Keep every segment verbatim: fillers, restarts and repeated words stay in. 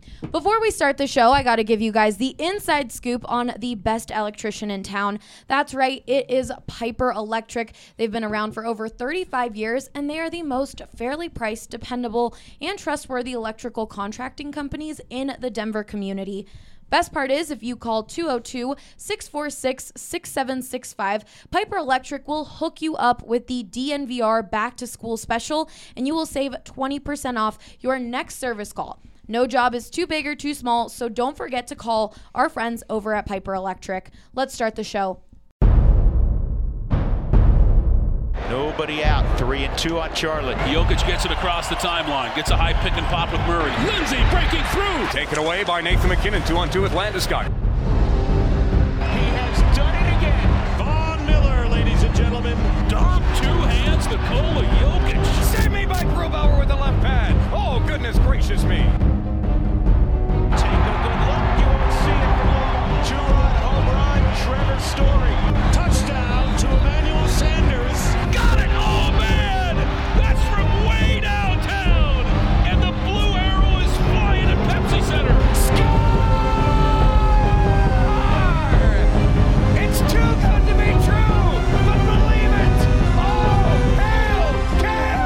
Before we start the show, I got to give you guys the inside scoop on the best electrician in town. That's right, it is Piper Electric. They've been around for over thirty-five years, and they are the most fairly priced, dependable, and trustworthy electrical contracting companies in the Denver community. Best part is, if you call two oh two, six four six, six seven six five, Piper Electric will hook you up with the D N V R Back to School Special, and you will save twenty percent off your next service call. No job is too big or too small, so don't forget to call our friends over at Piper Electric. Let's start the show. Nobody out. Three and two on Charlotte. Jokic gets it across the timeline. Gets a high pick and pop with Murray. Lindsay breaking through. Taken away by Nathan McKinnon. Two on two with Landeskog. He has done it again. Von Miller, ladies and gentlemen. Dom, two hands, Nikola Jokic. Save me by Grubauer with the left pad. Oh, goodness gracious me. Take a good look. You won't see it for long. Two-run home run. Trevor Story. Touchdown to Emmanuel Sanders. Got it! Oh, man! That's from way downtown! And the blue arrow is flying at Pepsi Center. Score! It's too good to be true, but believe it! Oh, hail,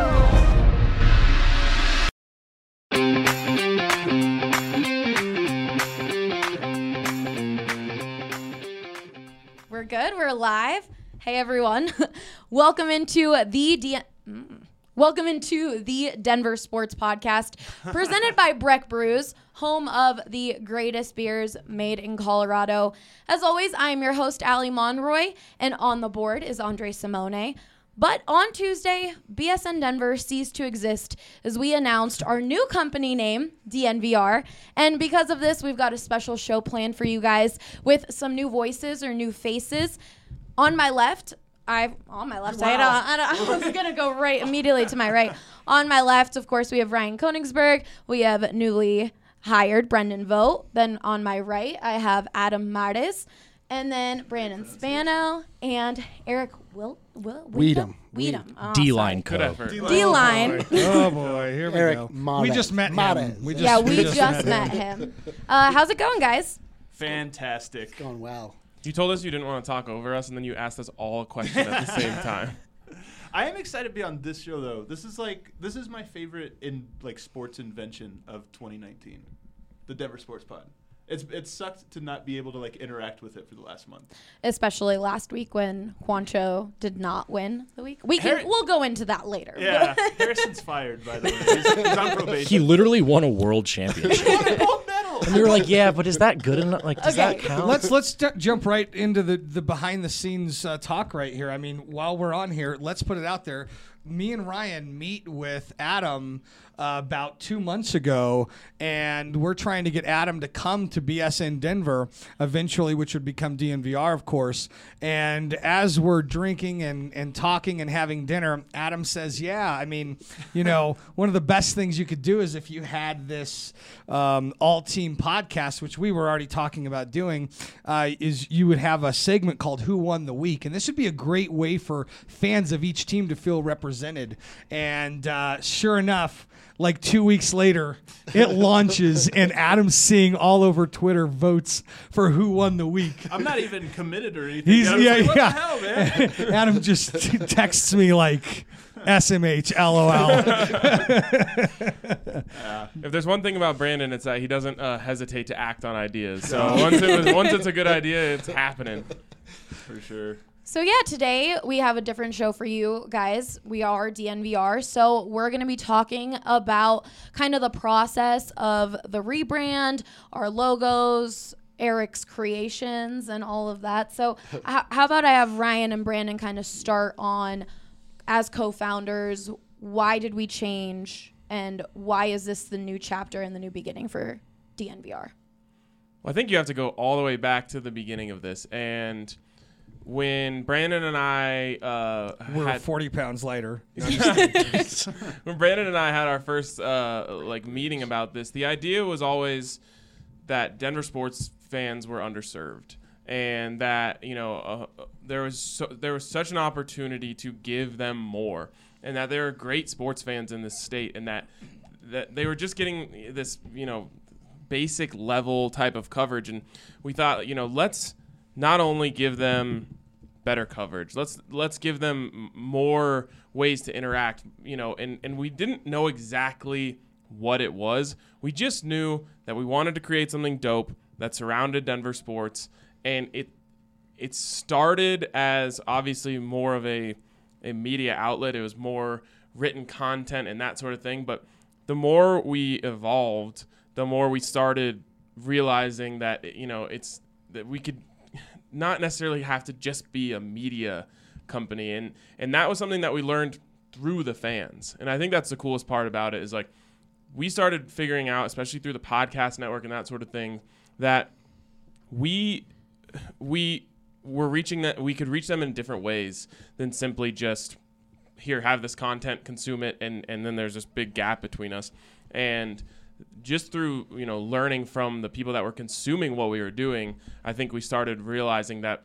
We're good. We're live. Hey, everyone. Welcome into the D- mm. Welcome into the Denver Sports Podcast, presented by Breck Brews, home of the greatest beers made in Colorado. As always, I am your host, Allie Monroy, and on the board is Andre Simone. But on Tuesday, B S N Denver ceased to exist as we announced our new company name, D N V R. And because of this, we've got a special show planned for you guys with some new voices or new faces. On my left, I on my left, Wow. I, don't, I, don't, I was gonna go right immediately to my right. On my left, of course, we have Ryan Koenigsberg. We have newly hired Brendan Vogt. Then on my right, I have Adam Martis, and then Brandon Spano and Eric Wil- Wil- Weedham. Weedham. Oh, D-line sorry. code. D-line. Oh boy, here we Eric go. Mades. We just met Mades. him. We just, Yeah, we just, just met him. Uh, how's it going, guys? Fantastic. Going well. You told us you didn't want to talk over us, and then you asked us all a question at the same time. I am excited to be on this show, though. This is like this is my favorite in like sports invention of twenty nineteen, the Denver Sports Pod. It's it sucked to not be able to like interact with it for the last month. Especially last week when Juancho did not win the week. We can Harry- we'll go into that later. Yeah, Harrison's fired, by the way. He's, he's on probation. He literally won a world championship. He won a gold medal. And we were like, yeah, but is that good enough? Like, does Okay. that count? Let's let's j- jump right into the the behind the scenes uh, talk right here. I mean, while we're on here, let's put it out there. Me and Ryan meet with Adam uh, about two months ago, and we're trying to get Adam to come to B S N Denver eventually, which would become D N V R, of course. And as we're drinking and, and talking and having dinner, Adam says, yeah, I mean, you know, one of the best things you could do is if you had this um, all-team podcast, which we were already talking about doing, uh, is you would have a segment called Who Won the Week. And this would be a great way for fans of each team to feel represented. And uh, sure enough, like two weeks later, it launches, and Adam's seeing all over Twitter votes for who won the week. I'm not even committed or anything. He's I was yeah like, what yeah. the hell, man? Adam just t- texts me like S M H L O L. If there's one thing about Brandon, it's that he doesn't uh, hesitate to act on ideas. So once, it was, once it's a good idea, it's happening. For sure. So yeah, today we have a different show for you guys. We are D N V R, so we're going to be talking about kind of the process of the rebrand, our logos, Eric's creations, and all of that. So h- how about I have Ryan and Brandon kind of start on, as co-founders, why did we change, and why is this the new chapter and the new beginning for D N V R? Well, I think you have to go all the way back to the beginning of this. And when Brandon and I uh, We're had forty pounds lighter. when Brandon and I had our first uh, like meeting about this, the idea was always that Denver sports fans were underserved, and that you know uh, there was so, there was such an opportunity to give them more, and that there are great sports fans in this state, and that that they were just getting this you know basic level type of coverage. And we thought, you know, let's not only give them better coverage, let's let's give them more ways to interact, you know, and, and we didn't know exactly what it was. We just knew that we wanted to create something dope that surrounded Denver sports, and it it started as obviously more of a, a media outlet. It was more written content and that sort of thing, but the more we evolved, the more we started realizing that, you know, it's that we could not necessarily have to just be a media company, and and that was something that we learned through the fans. And I think that's the coolest part about it, is like we started figuring out, especially through the podcast network and that sort of thing, that we we were reaching that we could reach them in different ways than simply just here, have this content, consume it, and and then there's this big gap between us. And just through, you know, learning from the people that were consuming what we were doing, I think we started realizing that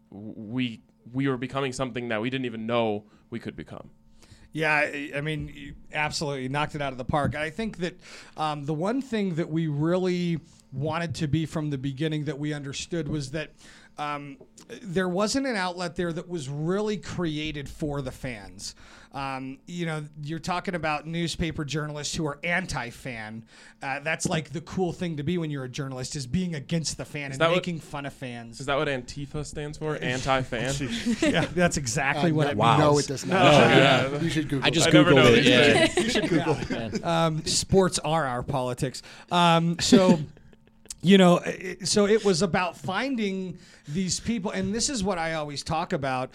we we were becoming something that we didn't even know we could become. Yeah, I, I mean, you absolutely knocked it out of the park. I think that um, the one thing that we really wanted to be from the beginning that we understood was that um, there wasn't an outlet there that was really created for the fans. Um, you know, you're talking about newspaper journalists who are anti-fan. Uh, that's like the cool thing to be when you're a journalist, is being against the fan Is and that what- making fun of fans. Is that what Antifa stands for? Anti-fan? Yeah, that's exactly Uh, what no, it Wow. means. No, it does not. No, You should- yeah. You should Google I just I never Googled know it. these Yeah. things. You should Google it. Um, sports are our politics. Um, so, you know, it, so it was about finding these people, and this is what I always talk about,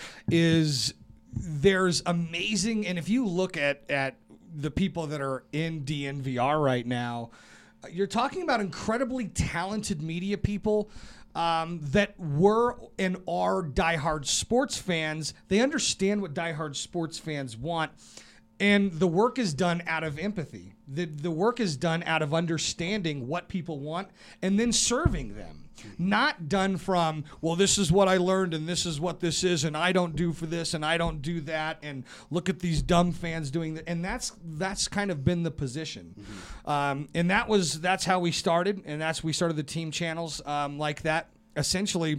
is there's amazing, and if you look at, at the people that are in D N V R right now, you're talking about incredibly talented media people um, that were and are diehard sports fans. They understand what diehard sports fans want. And the work is done out of empathy. The the work is done out of understanding what people want and then serving them. Not done from, well, this is what I learned and this is what this is and I don't do for this and I don't do that and look at these dumb fans doing that. And that's that's kind of been the position. Mm-hmm. Um, and that was that's how we started, and that's we started the team channels um, like that. Essentially,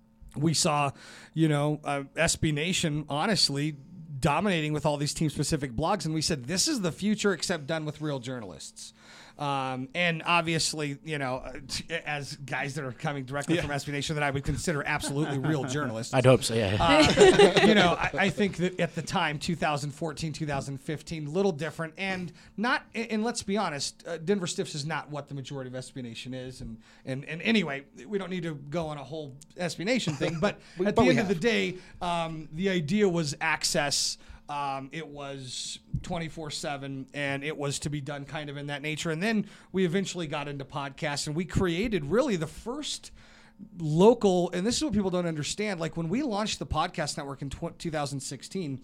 we saw, you know, uh, S B Nation, honestly, dominating with all these team-specific blogs, and we said, this is the future, except done with real journalists. Um, and obviously, you know, uh, t- as guys that are coming directly from S B Nation that I would consider absolutely real journalists. I'd hope so, yeah. Uh, you know, I, I think that at the time, two thousand fourteen, two thousand fifteen, little different, and not. And let's be honest, uh, Denver Stiffs is not what the majority of S B Nation is, and and and anyway, we don't need to go on a whole S B Nation thing, but We- at but the we end of the have. day, um, the idea was access. Um, it was twenty-four seven, and it was to be done kind of in that nature. And then we eventually got into podcasts, and we created really the first local, and this is what people don't understand, like when we launched the podcast network in tw- two thousand sixteen,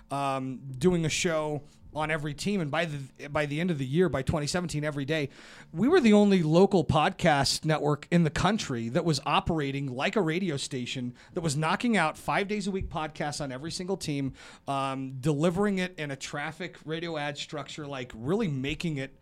um, doing a show on every team, and by the by the end of the year, by twenty seventeen, every day, we were the only local podcast network in the country that was operating like a radio station, that was knocking out five days a week podcasts on every single team, um, delivering it in a traffic radio ad structure, like really making it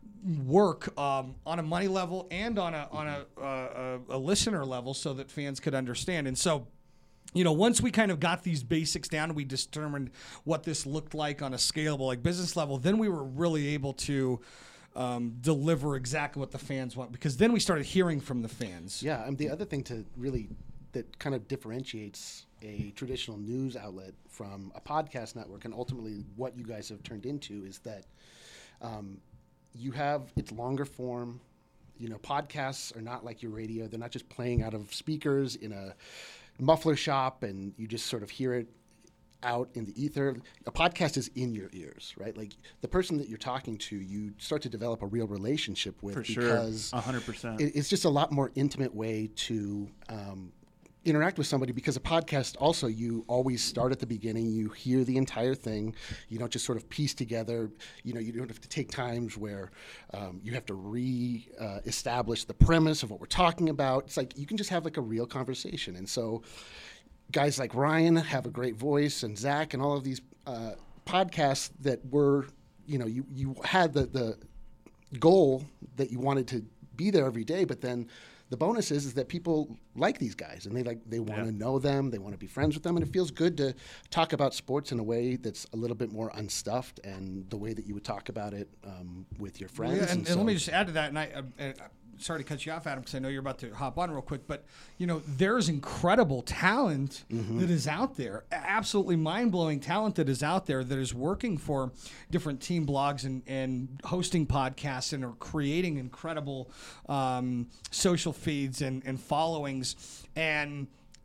work um, on a money level and on a on a, uh, a a listener level, so that fans could understand. And so, you know, once we kind of got these basics down and we determined what this looked like on a scalable, like business level, then we were really able to um, deliver exactly what the fans want, because then we started hearing from the fans. Yeah, and the other thing to really that kind of differentiates a traditional news outlet from a podcast network, and ultimately what you guys have turned into, is that um, you have it's longer form. You know, podcasts are not like your radio; they're not just playing out of speakers in a muffler shop and you just sort of hear it out in the ether. A podcast is in your ears, right? Like the person that you're talking to, you start to develop a real relationship with, For sure, because one hundred percent. it, it's just a lot more intimate way to um, interact with somebody, because a podcast also, you always start at the beginning, you hear the entire thing, you don't just sort of piece together, you know, you don't have to take times where um, you have to re-establish uh, the premise of what we're talking about. It's like you can just have like a real conversation. And so guys like Ryan have a great voice, and Zach, and all of these uh, podcasts that were, you know, you, you had the, the goal that you wanted to be there every day, but then the bonus is, is that people like these guys and they like they want to Yeah. know them, they want to be friends with them, and it feels good to talk about sports in a way that's a little bit more unstuffed and the way that you would talk about it um, with your friends. Yeah, and, and and let me so- just add to that, and I, uh, uh, sorry to cut you off, Adam, because I know you're about to hop on real quick, but you know there's incredible talent Mm-hmm. that is out there, absolutely mind-blowing talent that is out there that is working for different team blogs and, and hosting podcasts and are creating incredible um, social feeds and, and followings. And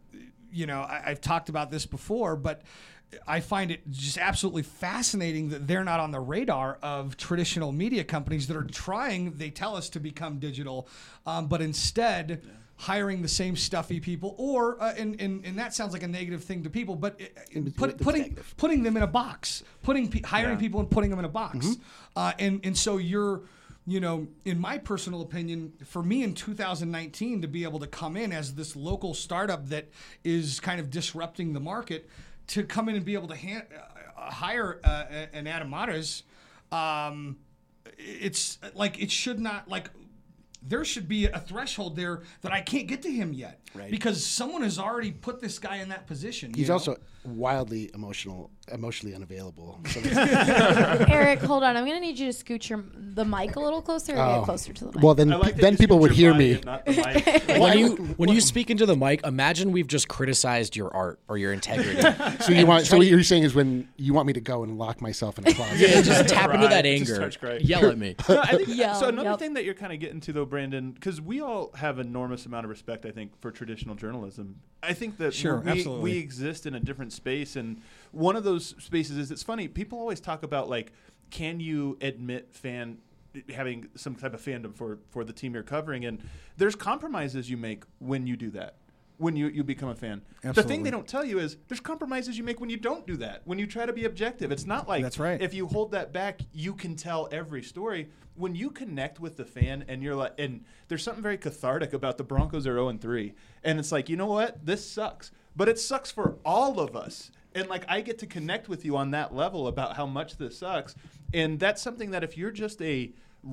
you know, I, I've talked about this before, but I find it just absolutely fascinating that they're not on the radar of traditional media companies that are trying, they tell us, to become digital, um, but instead hiring the same stuffy people, or, uh, and, and, and that sounds like a negative thing to people, but uh, put, it's putting negative. putting them in a box, putting pe- hiring Yeah. people and putting them in a box. Mm-hmm. Uh, and, and so you're, you know, in my personal opinion, for me in two thousand nineteen to be able to come in as this local startup that is kind of disrupting the market, to come in and be able to hand, uh, hire uh, an Adam Mares, um, it's like it should not, like, there should be a threshold there that I can't get to him yet. Right. Because someone has already put this guy in that position. you He's know? also wildly emotional, emotionally unavailable. So Eric, hold on. I'm going to need you to scoot your, the mic a little closer or Oh. get closer to the mic. well, then I like that then you people scoot would your hear body me. and not the mic. When you when you speak into the mic, imagine we've just criticized your art or your integrity. So you want? So what you're saying is when you want me to go and lock myself in a closet? Yeah, just tap into Cry. that Just anger. starts crying. Yell at me. No, I think, Yeah, so another yep. thing that you're kind of getting to, though, Brandon, because we all have enormous amount of respect, I think, for traditional journalism. I think that Sure, we, absolutely. we exist in a different space, and one of those spaces is, it's funny, people always talk about, like, can you admit fan having some type of fandom for, for the team you're covering, and there's compromises you make when you do that. When you, you become a fan. The Absolutely. thing they don't tell you is there's compromises you make when you don't do that, when you try to be objective. It's not like That's right. if you hold that back, you can tell every story. When you connect with the fan and you're like, and there's something very cathartic about the Broncos are oh and three. And it's like, you know what? This sucks. But it sucks for all of us. And like, I get to connect with you on that level about how much this sucks. And that's something that if you're just a,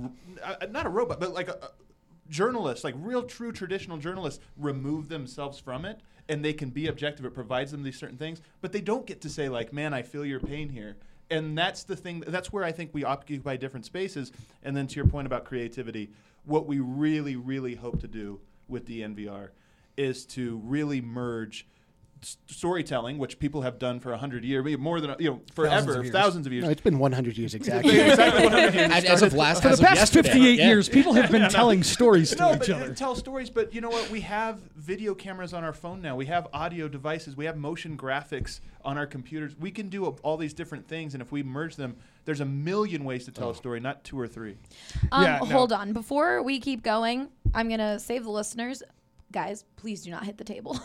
uh, not a robot, but like a, a journalists, like real true traditional journalists, remove themselves from it and they can be objective. It provides them these certain things, but they don't get to say like, man, I feel your pain here. And that's the thing, that's where I think we occupy different spaces. And then to your point about creativity, what we really, really hope to do with D N V R is to really merge s- storytelling, which people have done for a hundred years, more than, you know, forever, of years. thousands of years. No, it's been one hundred years exactly. Exactly one hundred years. As, as of last, For as the of past yesterday. fifty-eight Yeah. years, people have been telling stories to No, each but other. tell stories. But you know what? We have video cameras on our phone now. We have audio devices. We have motion graphics on our computers. We can do a, all these different things, and if we merge them, there's a million ways to tell a story, not two or three. Um, Yeah, no. Hold on. Before we keep going, I'm going to save the listeners. Guys, please do not hit the table.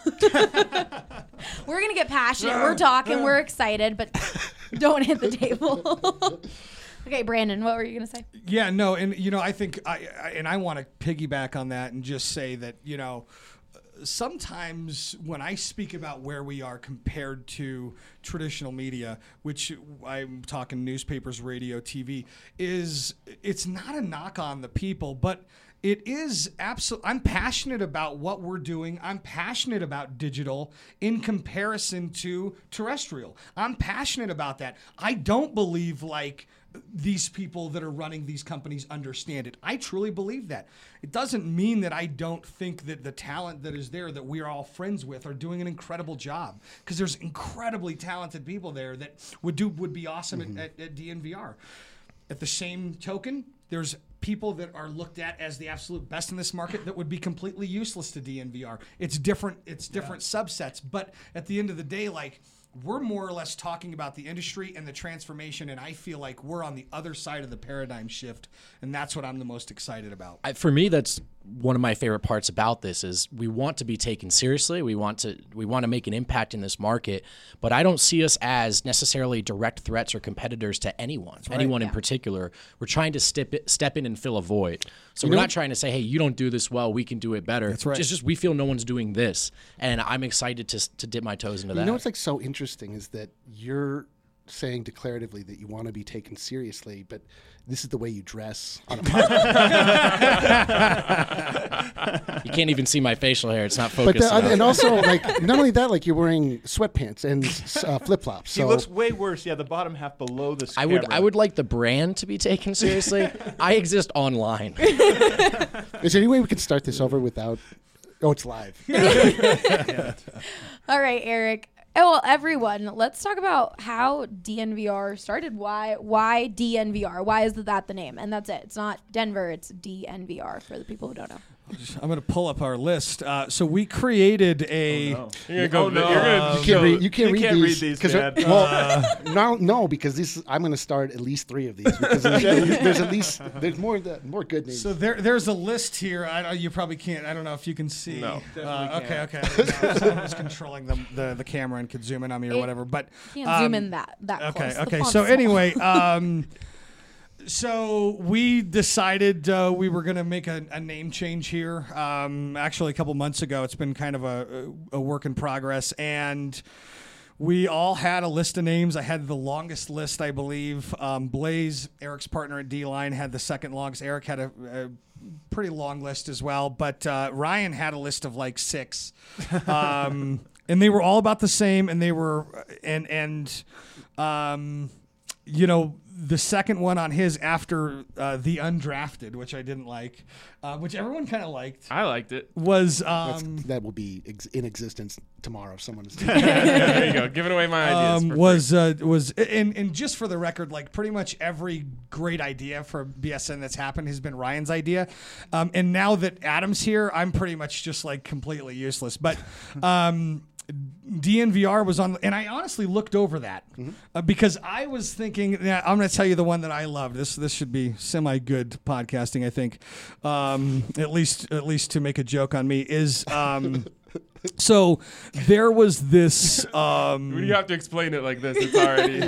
We're going to get passionate. We're talking. We're excited, but don't hit the table. Okay, Brandon, what were you going to say? Yeah, no, and you know, I think, I, I and I want to piggyback on that and just say that, you know, sometimes when I speak about where we are compared to traditional media, which I'm talking newspapers, radio, T V, is it's not a knock on the people, but it is absolutely, I'm passionate about what we're doing. I'm passionate about digital in comparison to terrestrial. I'm passionate about that. I don't believe like these people that are running these companies understand it. I truly believe that. It doesn't mean that I don't think that the talent that is there that we're all friends with are doing an incredible job, because there's incredibly talented people there that would do would be awesome Mm-hmm. at, at, at D N V R. At the same token, there's people that are looked at as the absolute best in this market that would be completely useless to D N V R. It's different. It's different subsets. But at the end of the day, like, we're more or less talking about the industry and the transformation, and I feel like we're on the other side of the paradigm shift, and that's what I'm the most excited about. I, for me, that's one of my favorite parts about this is we want to be taken seriously. We want to we want to make an impact in this market, but I don't see us as necessarily direct threats or competitors to anyone, anyone in particular. We're trying to step it, step in and fill a void. So You we're know- not trying to say, hey, you don't do this well, we can do it better. That's right. It's just we feel no one's doing this, and I'm excited to to dip my toes into that. You know what's like so interesting is that you're saying declaratively that you want to be taken seriously, but this is the way you dress on a podcast. You can't even see my facial hair. It's not But focused the, enough. and also, like, not only that, like you're wearing sweatpants and uh, flip flops. He So looks way worse. Yeah, the bottom half below the. I would camera. I would like the brand to be taken seriously. I exist online. is there any way we could start this over without? Oh, it's live. All right, Eric. Oh, well, everyone, let's talk about how D N V R started. Why why D N V R? Why is that the name? And that's it. It's not Denver. It's D N V R for the people who don't know. I'm going to pull up our list. Uh, so we created a. Oh, You're gonna go. Oh, no. You're gonna. You can't read. You can't, You read, can't these read these, 'cause man. they're- well, no, no, because this I'm going to start at least three of these because there's, there's at least there's more that more good names. So there, there's a list here. I don't, you probably can't. I don't know if you can see. No. Uh, okay, okay. I didn't know. Someone was controlling the, the the camera and could zoom in on me or It- whatever. But You can't zoom um, in that that Okay, close. The okay. font's So small. anyway, um, so we decided uh, we were going to make a, a name change here. Um, actually, a couple months ago, it's been kind of a, a work in progress, and we all had a list of names. I had the longest list, I believe. Um, Blaze, Eric's partner at D-Line, had the second longest. Eric had a, a pretty long list as well, but uh, Ryan had a list of like six. Um, and they were all about the same, and they were, and, and um, you know, the second one on his after uh, the undrafted, which I didn't like, uh, which everyone kind of liked, I liked it. was That's, um, that will be ex- in existence tomorrow if someone is. There you go. Giving away my ideas. um, for was uh, was and and just for the record, like pretty much every great idea for B S N that's happened has been Ryan's idea, um, and now that Adam's here, I'm pretty much just like completely useless. But um, D N V R was on, and I honestly looked over that uh, because I was thinking. Yeah, I'm going to tell you the one that I loved. This this should be semi good podcasting, I think, um, at least at least to make a joke on me is. Um, So there was this. Um, When you have to explain it like this, it's already.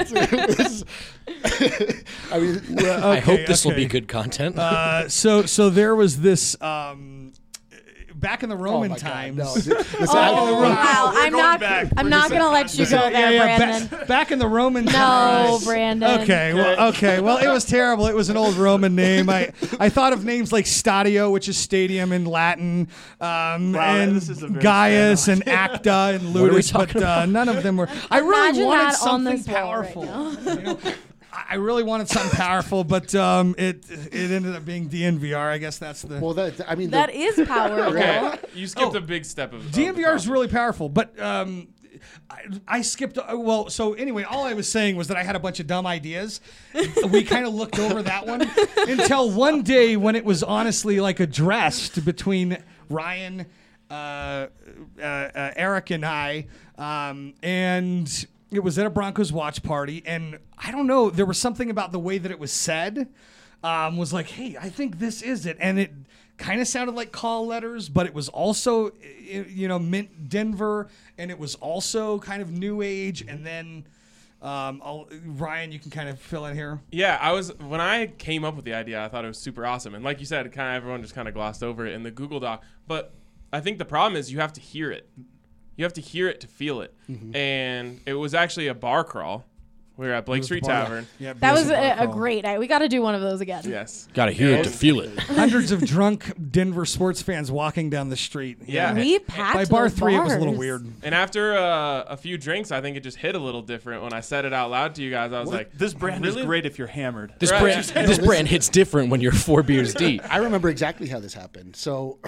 I mean, I hope this will okay. be good content. uh, so so there was this. Um, back in the oh Roman my God, times. no. This- this- Oh, wow. I'm going not back. I'm We're not just going to at let you So, go yeah, there, yeah, Brandon. Back, back in the Roman No, times. Brandon. Okay, well, okay, well, it was terrible. It was an old Roman name. I, I thought of names like Stadio, which is stadium in Latin, um, Wow, and this is a very Gaius stand and Acta and What are we Ludus, but talking uh, none of them were. I really Imagine wanted that on something this wall right powerful. now. you know? I I really wanted something powerful, but um, it it ended up being D N V R. I guess that's the. well, that I mean, That the, is powerful. Okay, you skipped Oh. a big step of. D N of V the R is process. really powerful, but um, I, I skipped. Uh, well, so anyway, all I was saying was that I had a bunch of dumb ideas. We kind of looked over that one until one day when it was honestly like addressed between Ryan, uh, uh, uh, Eric, and I, um, and it was at a Broncos watch party, and I don't know, there was something about the way that it was said. Um, was like, hey, I think this is it, and it kind of sounded like call letters, but it was also, i- you know, meant Denver, and it was also kind of new age. And then, um, I'll, Ryan, you can kind of fill in here. Yeah, I was when I came up with the idea, I thought it was super awesome, and like you said, kind of everyone just kind of glossed over it in the Google Doc. But I think the problem is you have to hear it. You have to hear it to feel it. Mm-hmm. And it was actually a bar crawl. We were at Blake Street Bar- Tavern. Yeah, That was Beers and a, Bar a Crawl. great night. We got to do one of those again. Yes. Got to hear it to feel it. Hundreds of drunk Denver sports fans walking down the street. Yeah. We packed By bar those three, it was a little bars. weird. And after uh, a few drinks, I think it just hit a little different. When I said it out loud to you guys, I was like, This brand really? is great if you're hammered. This Right. brand, this brand hits different when you're four beers deep. I remember exactly how this happened. So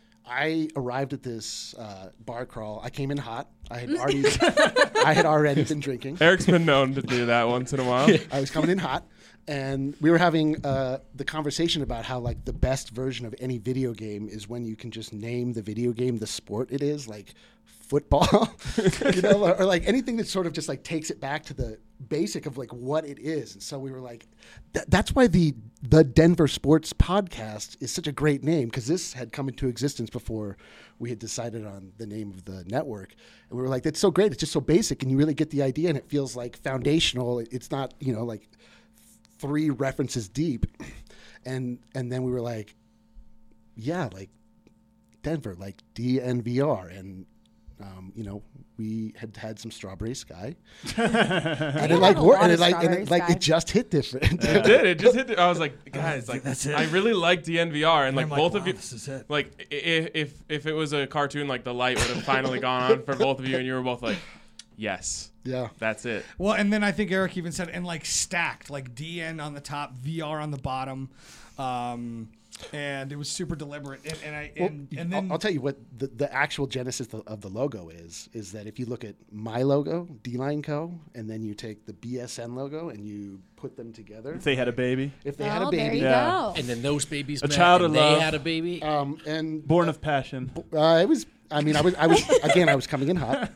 I arrived at this uh, bar crawl. I came in hot. I had already, I had already been drinking. Eric's been known to do that once in a while. I was coming in hot, and we were having uh, the conversation about how like the best version of any video game is when you can just name the video game the sport it is, like football, you know, or, or like anything that sort of just like takes it back to the basic of like what it is. And so we were like, th- that's why the the Denver Sports Podcast is such a great name, because this had come into existence before we had decided on the name of the network. And we were like, that's so great. It's just so basic, and you really get the idea, and it feels like foundational. It's not, you know, like three references deep. And and then we were like, yeah, like Denver, like D N V R. And um, you know, we had had some Strawberry Sky, and it like worked, and it like, and it, like it just hit different. It did. It just hit. I was like, guys, like That's it. I really like D N V R, and, And like I'm both like, of wow, you, this is it. like i- i- if if it was a cartoon, like the light would have finally gone on for both of you, and you were both like, yes, Yeah. that's it. Well, and then I think Eric even said, and like stacked, like D N on the top, V R on the bottom, um, and it was super deliberate. And, and I Well, and, and then I'll, I'll tell you what the, the actual genesis of, of the logo is, is that if you look at my logo, D-Line Co., and then you take the B S N logo and you put them together. If they had a baby, If they had Oh, a there baby. you Yeah. go. And then those babies A met, child and of they love. had a baby. Um, and born of passion. uh, it was, I mean, I was, I was, again, I was coming in hot.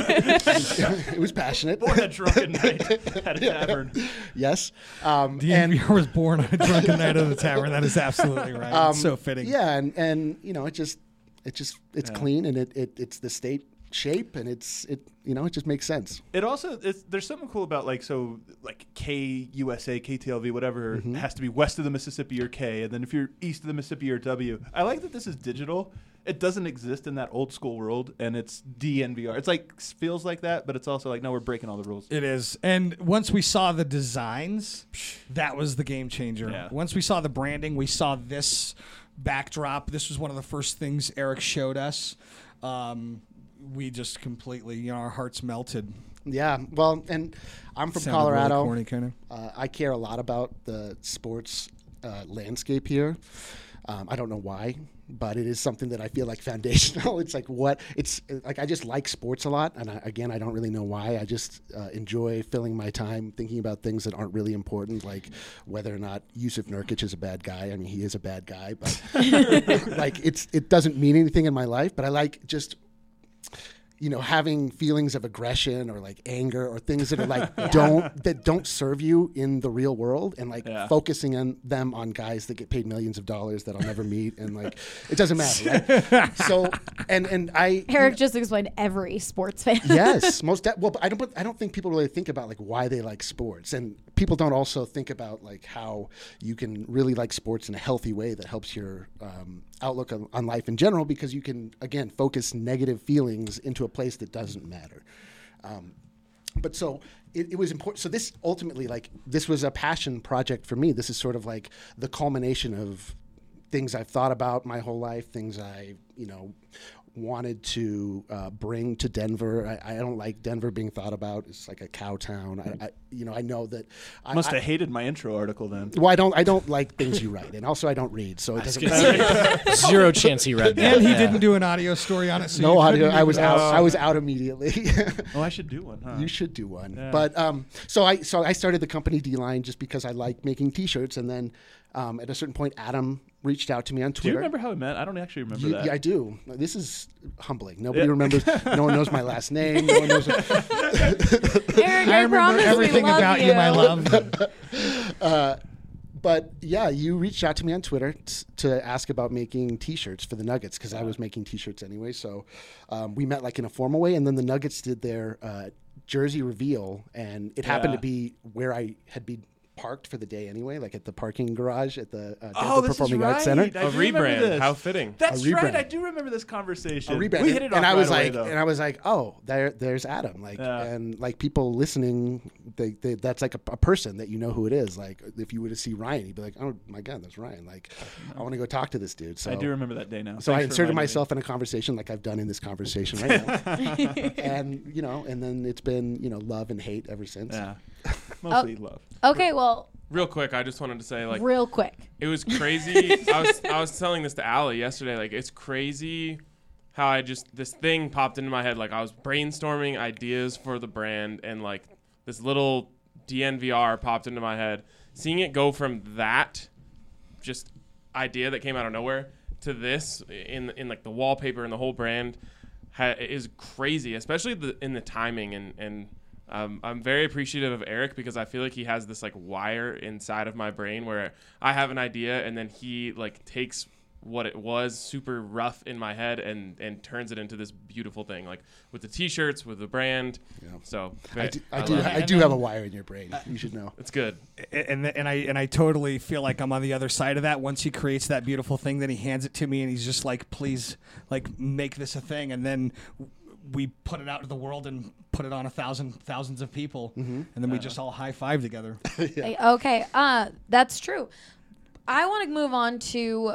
It was passionate. Born a drunken night at a tavern. Yes. Um, D and N V R was born on a drunken night at the tavern. That is absolutely right. Um, it's so fitting. Yeah, and, and you know, it just it just it's Yeah. clean and it, it it's the state shape and it's it you know it just makes sense. It also it's, there's something cool about like so like K U S A, K T L V, whatever Mm-hmm. has to be west of the Mississippi or K, and then if you're east of the Mississippi or W. I like that this is digital. It doesn't exist in that old school world, and it's D N V R. It's like feels like that, but it's also like no, we're breaking all the rules. It is. And once we saw the designs, that was the game changer. Yeah. Once we saw the branding, we saw this backdrop. This was one of the first things Eric showed us. Um, we just completely, you know, our hearts melted. Yeah, well, and I'm from Sounded really Colorado. corny, kind of. Uh, I care a lot about the sports uh, landscape here. Um, I don't know why, but it is something that I feel like foundational. It's like what it's like. I just like sports a lot, and I, again, I don't really know why. I just uh, enjoy filling my time thinking about things that aren't really important, like whether or not Yusuf Nurkic is a bad guy. I mean, he is a bad guy, but like it's it doesn't mean anything in my life. But I like just. You know, having feelings of aggression or like anger or things that are like don't that don't serve you in the real world, and like Yeah. focusing on them on guys that get paid millions of dollars that I'll never meet, and like it doesn't matter, right? So and and I Eric just explained every sports fan. yes, most de- well, but I don't. But I don't think people really think about like why they like sports, and people don't also think about like how you can really like sports in a healthy way that helps your um, outlook on, on life in general, because you can again focus negative feelings into a place that doesn't matter. Um, but so it, it was important. So this ultimately, like, this was a passion project for me. This is sort of like the culmination of things I've thought about my whole life, things I, you know, wanted to uh, bring to Denver. I, I don't like Denver being thought about. It's like a cow town. I, I you know, I know that. I, Must I, have hated my intro article then. well, I don't. I don't like things you write, and also I don't read, so it doesn't matter. Zero chance he read that. And he Yeah. didn't do an audio story on it. So No you audio. couldn't I was even- out. I was out immediately. Oh, I should do one. Huh? You should do one. Yeah. But um, so I so I started the company D-Line just because I like making T-shirts, and then um, at a certain point, Adam reached out to me on Twitter. Do you remember how we met? I don't actually remember You- that. yeah, I do. This is humbling. Nobody Yeah. remembers. No one knows my last name. No one knows. Eric, I I, remember promise everything we love about you, my love. uh, but yeah, you reached out to me on Twitter t- to ask about making T-shirts for the Nuggets, because I was making T-shirts anyway. So um, we met like in a formal way, and then the Nuggets did their uh, jersey reveal, and it happened Yeah. to be where I had been parked for the day anyway, like at the parking garage at the uh, Denver Oh, this Performing is Arts right. Center. I A do remember rebrand. this. How fitting. That's A right. rebrand. I do remember this conversation. A rebrand. We hit it off and I was right away, like, though. and I was like, oh, there, there's Adam. Like, Yeah. and like people listening, they, they that's like a, a person that you know who it is. Like, if you were to see Ryan, you'd be like, oh my god, that's Ryan. Like, I want to go talk to this dude. So I do remember that day now. So I Thanks for inserted reminding me. myself in a conversation like I've done in this conversation right now, and you know, and then it's been you know love and hate ever since. Yeah, mostly Oh. love. Okay, well, Real quick, I just wanted to say, like, real quick. it was crazy. I was I was telling this to Allie yesterday. Like, it's crazy how I just this thing popped into my head. Like, I was brainstorming ideas for the brand, and like this little D N V R popped into my head. Seeing it go from that just idea that came out of nowhere to this in in like the wallpaper and the whole brand ha- is crazy, especially the, in the timing and and. Um, I'm very appreciative of Eric because I feel like he has this like wire inside of my brain where I have an idea and then he like takes what it was super rough in my head and, and turns it into this beautiful thing, like with the T-shirts, with the brand. Yeah. So I do, I I do, love I it. do have a wire in your brain. You should know. It's good. and and I and I totally feel like I'm on the other side of that. Once he creates that beautiful thing, then he hands it to me, and he's just like, "Please, like, make this a thing." And then we put it out to the world and put it on a thousand thousands of people, Mm-hmm. and then we just all high five together. Hey, Okay, uh, that's true. I want to move on to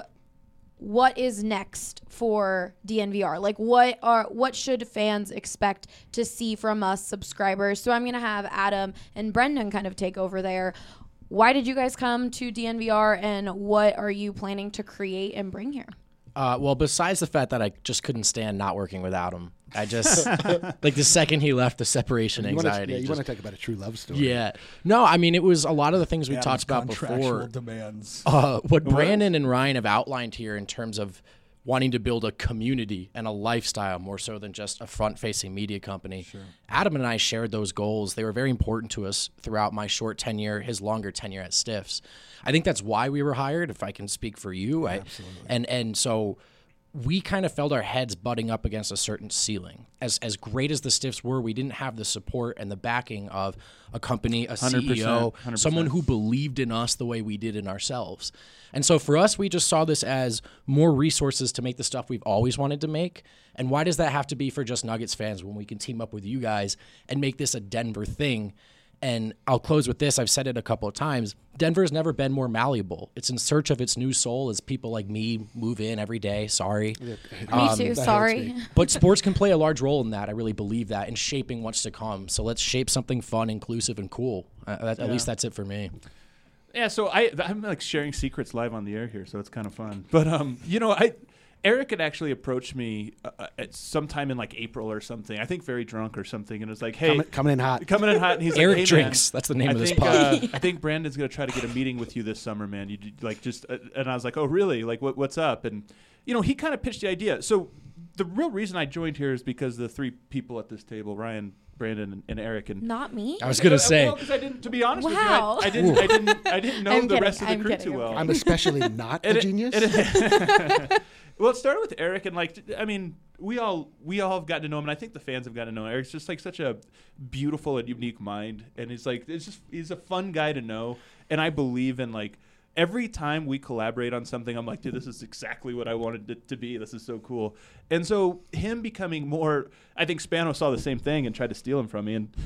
what is next for D N V R. Like, what are what should fans expect to see from us subscribers? So I'm gonna have Adam and Brendan kind of take over there. Why did you guys come to D N V R, and what are you planning to create and bring here? Uh, well, besides the fact that I just couldn't stand not working without him, I just like the second he left, the separation You wanna, anxiety. yeah, you just- want to talk about a true love story. yeah, no, I mean it was a lot of the things we Adam's talked about contractual before. demands. Uh, what Brandon and Ryan have outlined here in terms of wanting to build a community and a lifestyle more so than just a front-facing media company. Adam and I shared those goals. They were very important to us throughout my short tenure, his longer tenure at Stiffs. I think that's why we were hired, if I can speak for you. I, Absolutely. And and so we kind of felt our heads butting up against a certain ceiling. As as great as the Stiffs were, we didn't have the support and the backing of a company, a C E O, one hundred percent, one hundred percent. someone who believed in us the way we did in ourselves. And so for us, we just saw this as more resources to make the stuff we've always wanted to make. And why does that have to be for just Nuggets fans when we can team up with you guys and make this a Denver thing? And I'll close with this. I've said it a couple of times. Denver's never been more malleable. It's in search of its new soul as people like me move in every day. Sorry. Me Um, too. that Sorry. hurts But sports can play a large role in that. I really believe that in shaping what's to come. So let's shape something fun, inclusive, and cool. Uh, that, At least that's it for me. Yeah, so I I'm like sharing secrets live on the air here, so it's kind of fun. But um, you know, I Eric had actually approached me uh, at sometime in like April or something. I think very drunk or something, and it was like, "Hey, Coming, coming in hot. coming in hot." And he's Eric like, "Hey, man, Drinks. That's the name I of this think, pod. uh, I think Brandon's gonna try to get a meeting with you this summer, man. You like just," uh, and I was like, "Oh, really? Like, what, what's up?" And you know, he kind of pitched the idea. So the real reason I joined here is because the three people at this table, Ryan, Brandon, and, and Eric, and Not me. I was going to say. well, 'cause I didn't. To be honest Wow. with you, I, I didn't. I didn't. I didn't know I'm the kidding, rest of the I'm crew kidding, too I'm well. kidding. I'm especially not a And it- genius. and it- well, it started with Eric, and like, I mean, we all we all have gotten to know him, and I think the fans have gotten to know him. Eric's just like such a beautiful and unique mind, and he's like, it's just he's a fun guy to know, and I believe in like. Every time we collaborate on something, I'm like, dude, this is exactly what I wanted it to be. This is so cool. And so him becoming more, I think Spano saw the same thing and tried to steal him from me. And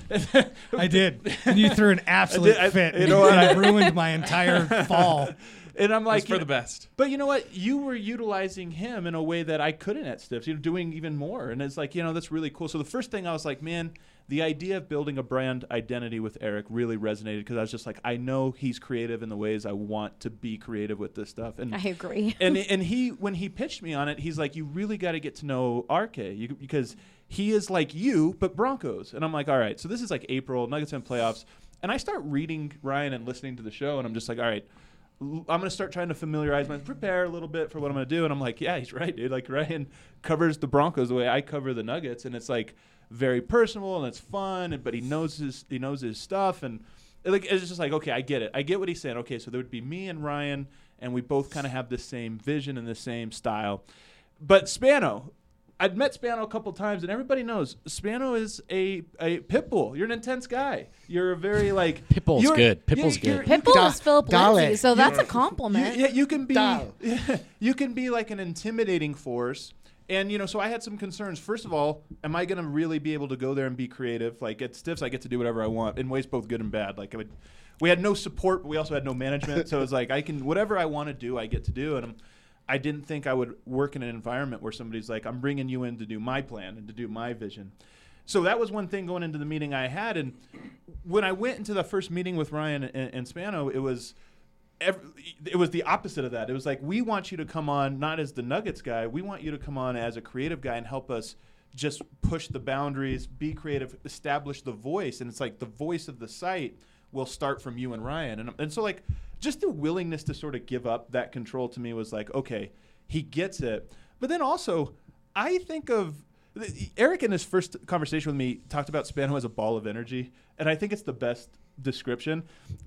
I did, and you threw an absolute I- fit. you know what? and ruined my entire fall. And I'm like, It's for you the know- best. But you know what? You were utilizing him in a way that I couldn't at Stiffs. You know, doing even more, and it's like, you know, that's really cool. So the first thing I was like, man, the idea of building a brand identity with Eric really resonated because I was just like, I know he's creative in the ways I want to be creative with this stuff. And I agree. and and he when he pitched me on it, he's like, you really got to get to know R K you, because he is like you but Broncos. And I'm like, all right. So this is like April, Nuggets in playoffs, and I start reading Ryan and listening to the show, and I'm just like, all right. I'm going to start trying to familiarize myself, prepare a little bit for what I'm going to do. And I'm like, yeah, he's right, dude. Like, Ryan covers the Broncos the way I cover the Nuggets. And it's like very personal and it's fun, and, but he knows his, he knows his stuff. And like, it's just like, okay, I get it. I get what he's saying. Okay, so there would be me and Ryan, and we both kind of have the same vision and the same style. But Spano, I'd met Spano a couple times, and everybody knows Spano is a, a pit bull. You're an intense guy. You're a very, like... Pitbull's you're- good. Pitbull's you're- good. you're- Pitbull Da- is Philip Dale. Lindsay, so that's a you, compliment. yeah, you can be Dale. you can be like an intimidating force. And you know, so I had some concerns. First of all, am I going to really be able to go there and be creative? Like at Stiffs, I get to do whatever I want in ways both good and bad. Like I would, we had no support, but we also had no management. So it's like I can whatever I want to do, I get to do. And I'm, I didn't think I would work in an environment where somebody's like, I'm bringing you in to do my plan and to do my vision. So that was one thing going into the meeting I had. And when I went into the first meeting with Ryan and, and Spano, it was every, it was the opposite of that. It was like, we want you to come on not as the Nuggets guy. We want you to come on as a creative guy and help us just push the boundaries, be creative, establish the voice. And it's like the voice of the site will start from you and Ryan. And, and so like just the willingness to sort of give up that control to me was like, okay, he gets it. But then also I think of Eric in his first conversation with me talked about Spano as a ball of energy. And I think it's the best description.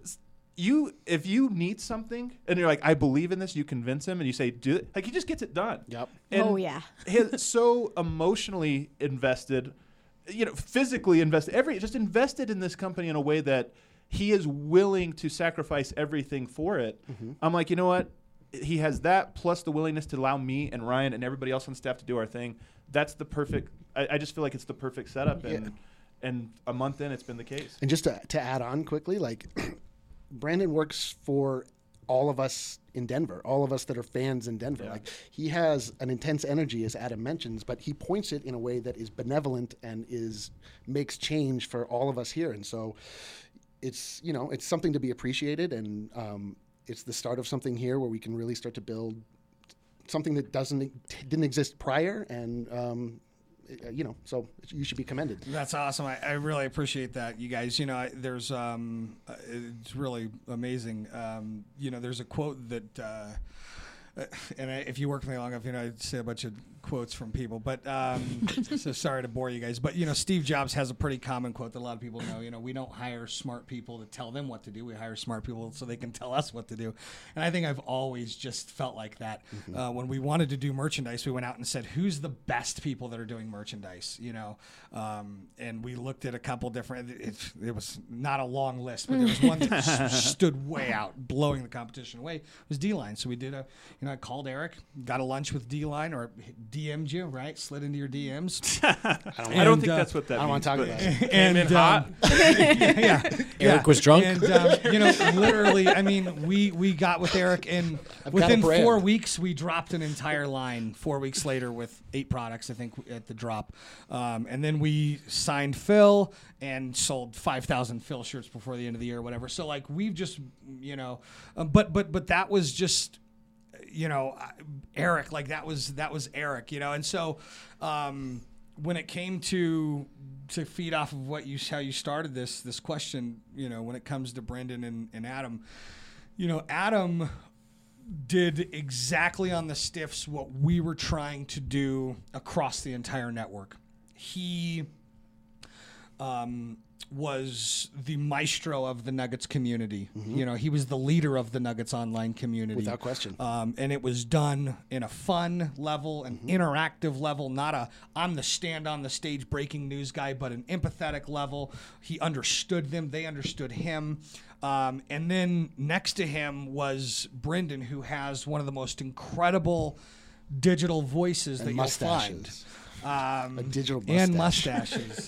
You, if you need something and you're like, I believe in this, you convince him and you say, do it. Like he just gets it done. Yep. And Oh, yeah. he's so emotionally invested, you know, physically invested, every just invested in this company in a way that he is willing to sacrifice everything for it. I'm like, you know what? he has that plus the willingness to allow me and Ryan and everybody else on staff to do our thing. That's the perfect. I, I just feel like it's the perfect setup, and Yeah. and a month in, it's been the case. And just to, to add on quickly, like Brandon works for all of us in Denver, all of us that are fans in Denver. Yeah. Like he has an intense energy, as Adam mentions, but he points it in a way that is benevolent and is makes change for all of us here. And so it's, you know, it's something to be appreciated, and um, it's the start of something here where we can really start to build something that doesn't didn't exist prior, and um, you know, so you should be commended. That's awesome. I, I really appreciate that, you guys. You know, I, there's um, uh, it's really amazing. Um, you know, there's a quote that, uh, uh, and I, if you work with me long enough, you know, I say a bunch of quotes from people. But um, so sorry to bore you guys. But you know, Steve Jobs has a pretty common quote that a lot of people know. You know, we don't hire smart people to tell them what to do. We hire smart people so they can tell us what to do. And I think I've always just felt like that. Mm-hmm. Uh, when we wanted to do merchandise, we went out and said, "Who's the best people that are doing merchandise?" You know, um, and we looked at a couple different. It, it was not a long list, but there was one that s- stood way out, blowing the competition away. It was D-Line. So we did a, you know, I called Eric, got a lunch with D-Line, or D M'd you, right? Slid into your D Ms. I don't, And, I don't think uh, that's what that I don't means. want to talk but- about it. and in hot. um, yeah, yeah, Eric was drunk? And um, you know, literally, I mean, we we got with Eric, and I've got a within brand. four weeks, we dropped an entire line. Four weeks later, with eight products, I think, at the drop, um, and then we signed Phil and sold five thousand Phil shirts before the end of the year, or whatever. So like, we've just, you know, um, but but but that was just. You know, Eric, like that was that was Eric, you know, and so um, when it came to to feed off of what you how you started this this question, you know, when it comes to Brendan and, and Adam, you know, Adam did exactly on the stiffs what we were trying to do across the entire network. He um, was the maestro of the Nuggets community. Mm-hmm. You know, he was the leader of the Nuggets online community. Without question. Um, and it was done in a fun level, an mm-hmm. interactive level, not a I'm the stand on the stage breaking news guy, but an empathetic level. He understood them. They understood him. Um, and then next to him was Brendan, who has one of the most incredible digital voices and that mustaches. you'll find. Um, a digital mustache. And mustaches.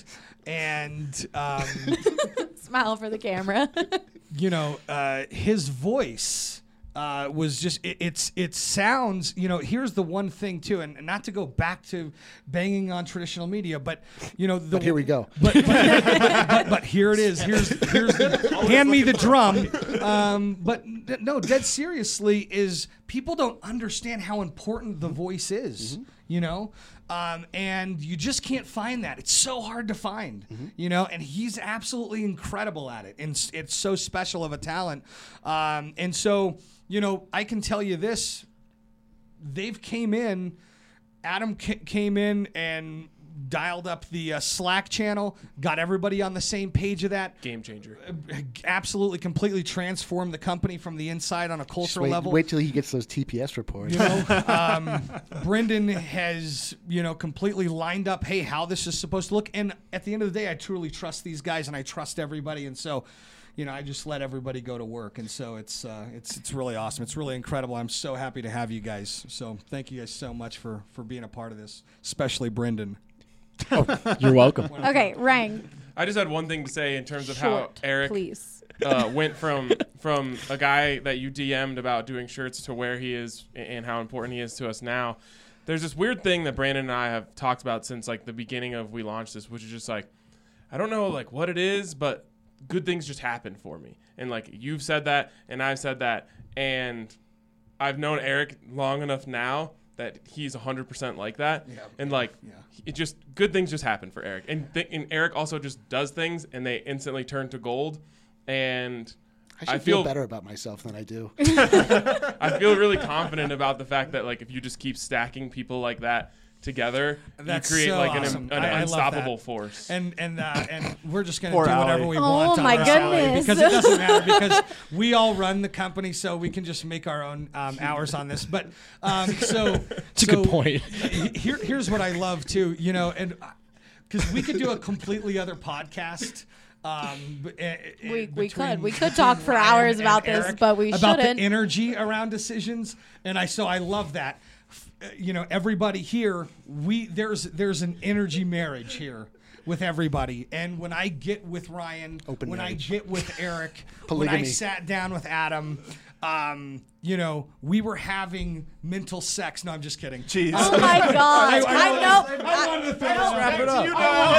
And um, Smile for the camera. you know, uh, his voice uh, was just it, it's it sounds. You know, here's the one thing too, and, and not to go back to banging on traditional media, but you know, the, But here we go. But but, but, but, but here it is. Here's here's the, hand me the drum. Um, but no, dead seriously, is people don't understand how important the voice is. Mm-hmm. You know. Um, and you just can't find that. It's so hard to find, mm-hmm. you know, and he's absolutely incredible at it. And it's so special of a talent. Um, and so, you know, I can tell you this, they've came in, Adam c- came in and dialed up the uh, Slack channel, got everybody on the same page of that. Game changer. Absolutely, completely transformed the company from the inside on a cultural wait, level. Wait till he gets those T P S reports. You know, um, Brendan has, you know, completely lined up, hey, how this is supposed to look. And at the end of the day, I truly trust these guys and I trust everybody. And so, you know, I just let everybody go to work. And so it's uh, it's it's really awesome. It's really incredible. I'm so happy to have you guys. So thank you guys so much for, for being a part of this, especially Brendan. Oh, you're welcome. Okay, Rang. I just had one thing to say in terms of Short, how Eric please. uh, went from from a guy that you D M'd about doing shirts to where he is and how important he is to us now. There's this weird thing that Brandon and I have talked about since like the beginning of we launched this, which is just like, I don't know like what it is, but good things just happen for me. And like you've said that and I've said that, and I've known Eric long enough now that he's one hundred percent like that. Yeah. And like yeah. it just good things just happen for Eric. And th- and Eric also just does things and they instantly turn to gold. And I should I feel, feel better about myself than I do. I feel really confident about the fact that like if you just keep stacking people like that together, That's you create so like awesome. an, an I- I love unstoppable that. force. And and uh, and we're just gonna Poor do whatever Allie. we Oh want. my on our salary goodness. because it doesn't matter because we all run the company, so we can just make our own um, hours on this. But um, so It's a so good point. Here, here's what I love too, you know, and because we could do a completely other podcast. Um, b- eh, eh, We- we between could. We could talk for Ryan hours and about this, Eric but we about shouldn't. the energy around decisions, and I so I love that. F- uh, You know, everybody here, we there's there's an energy marriage here with everybody, and when I get with Ryan, Open when marriage. I get with Eric, when I Polygamy. sat down with Adam. Um, you know, we were having mental sex. No, I'm just kidding. Jeez. Oh my God! I, know. I wanted to throw this I- wrap it up.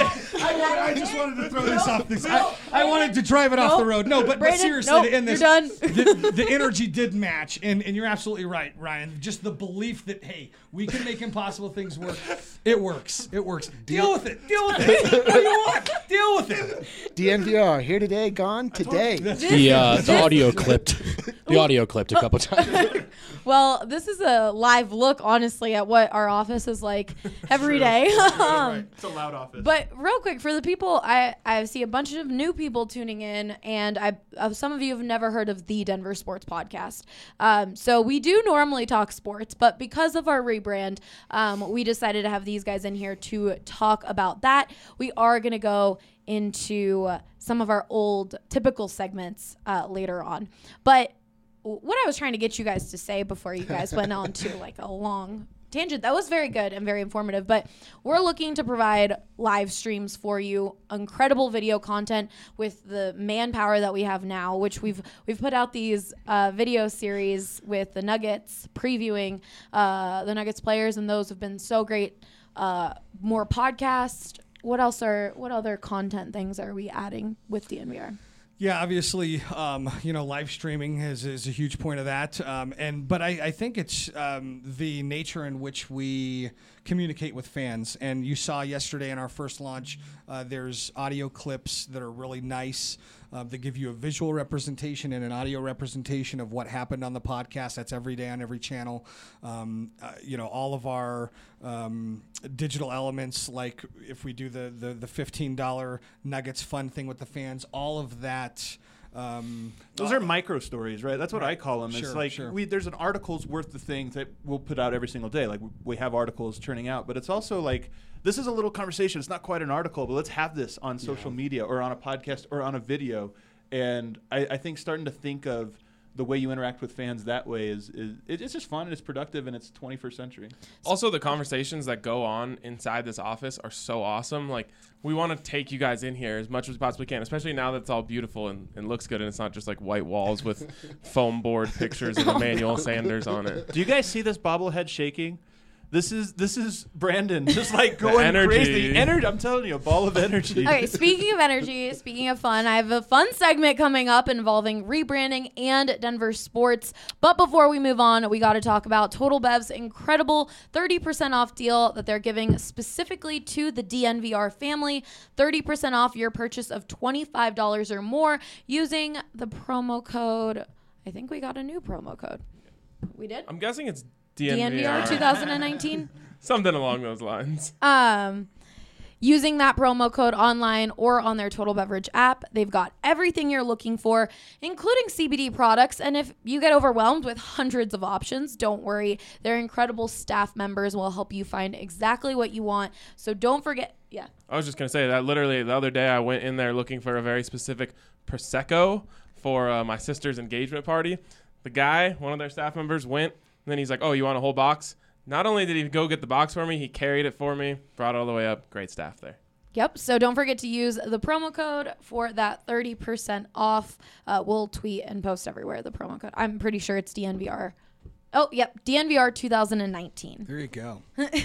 I, I just wanted to throw this off. This, I, I wanted to drive it off the road. No, but, but Brandon, seriously, nope, to end this, you're done. The, the energy did match, and, and you're absolutely right, Ryan. Just the belief that hey, we can make impossible things work. It works. It works. Deal with it. Deal with it. What do you want? Deal with it. D N V R here today, gone today. The uh, the audio clipped. The audio clipped a couple times. Well, this is a live look, honestly, at what our office is like every day. Um, It's a loud office. But real quick, for the people, I, I see a bunch of new people tuning in, and I uh, some of you have never heard of the Denver Sports Podcast. Um, so we do normally talk sports, but because of our rebrand, um, we decided to have these guys in here to talk about that. We are going to go into uh, some of our old typical segments uh, later on. But what I was trying to get you guys to say before you guys went on to like a long tangent, that was very good and very informative, but we're looking to provide live streams for you, incredible video content with the manpower that we have now, which we've we've put out these uh, video series with the Nuggets previewing uh, the Nuggets players, and those have been so great. Uh, more podcasts. What else are what other content things are we adding with D N V R? Yeah, obviously, um, you know, live streaming is, is a huge point of that. Um, and but I, I think it's um, the nature in which we communicate with fans. And you saw yesterday in our first launch, uh, there's audio clips that are really nice. Uh, that give you a visual representation and an audio representation of what happened on the podcast. That's every day on every channel. Um, uh, you know, all of our um, digital elements, like if we do the, the, the fifteen dollar Nuggets fun thing with the fans, all of that. Um, Those are micro stories, right? That's what Right. I call them. Sure, it's like sure. we there's an article's worth of things that we'll put out every single day. Like we, we have articles churning out, but it's also like this is a little conversation. It's not quite an article, but let's have this on social media or on a podcast or on a video. And I, I think starting to think of the way you interact with fans that way is, is it, it's just fun and it's productive and it's twenty-first century. Also, the conversations that go on inside this office are so awesome. Like, we want to take you guys in here as much as we possibly can, especially now that it's all beautiful and, and looks good and it's not just like white walls with foam board pictures of Emmanuel Sanders on it. Do you guys see this bobblehead shaking? This is this is Brandon just like going energy. crazy. Energy. I'm telling you, a ball of energy. Okay, speaking of energy, speaking of fun, I have a fun segment coming up involving rebranding and Denver sports. But before we move on, we got to talk about Total Bev's incredible thirty percent off deal that they're giving specifically to the D N V R family. thirty percent off your purchase of twenty-five dollars or more using the promo code. I think we got a new promo code. We did? I'm guessing it's D N V R D N V R. twenty nineteen. Something along those lines. Um, using that promo code online or on their Total Beverage app, they've got everything you're looking for, including C B D products. And if you get overwhelmed with hundreds of options, don't worry. Their incredible staff members will help you find exactly what you want. So don't forget. Yeah. I was just going to say that literally the other day I went in there looking for a very specific Prosecco for uh, my sister's engagement party. The guy, one of their staff members, went, and then he's like, oh, you want a whole box? Not only did he go get the box for me, he carried it for me, brought it all the way up. Great staff there. Yep. So don't forget to use the promo code for that thirty percent off. Uh, we'll tweet and post everywhere the promo code. I'm pretty sure it's D N V R. Oh, yep. D N V R twenty nineteen. there you go.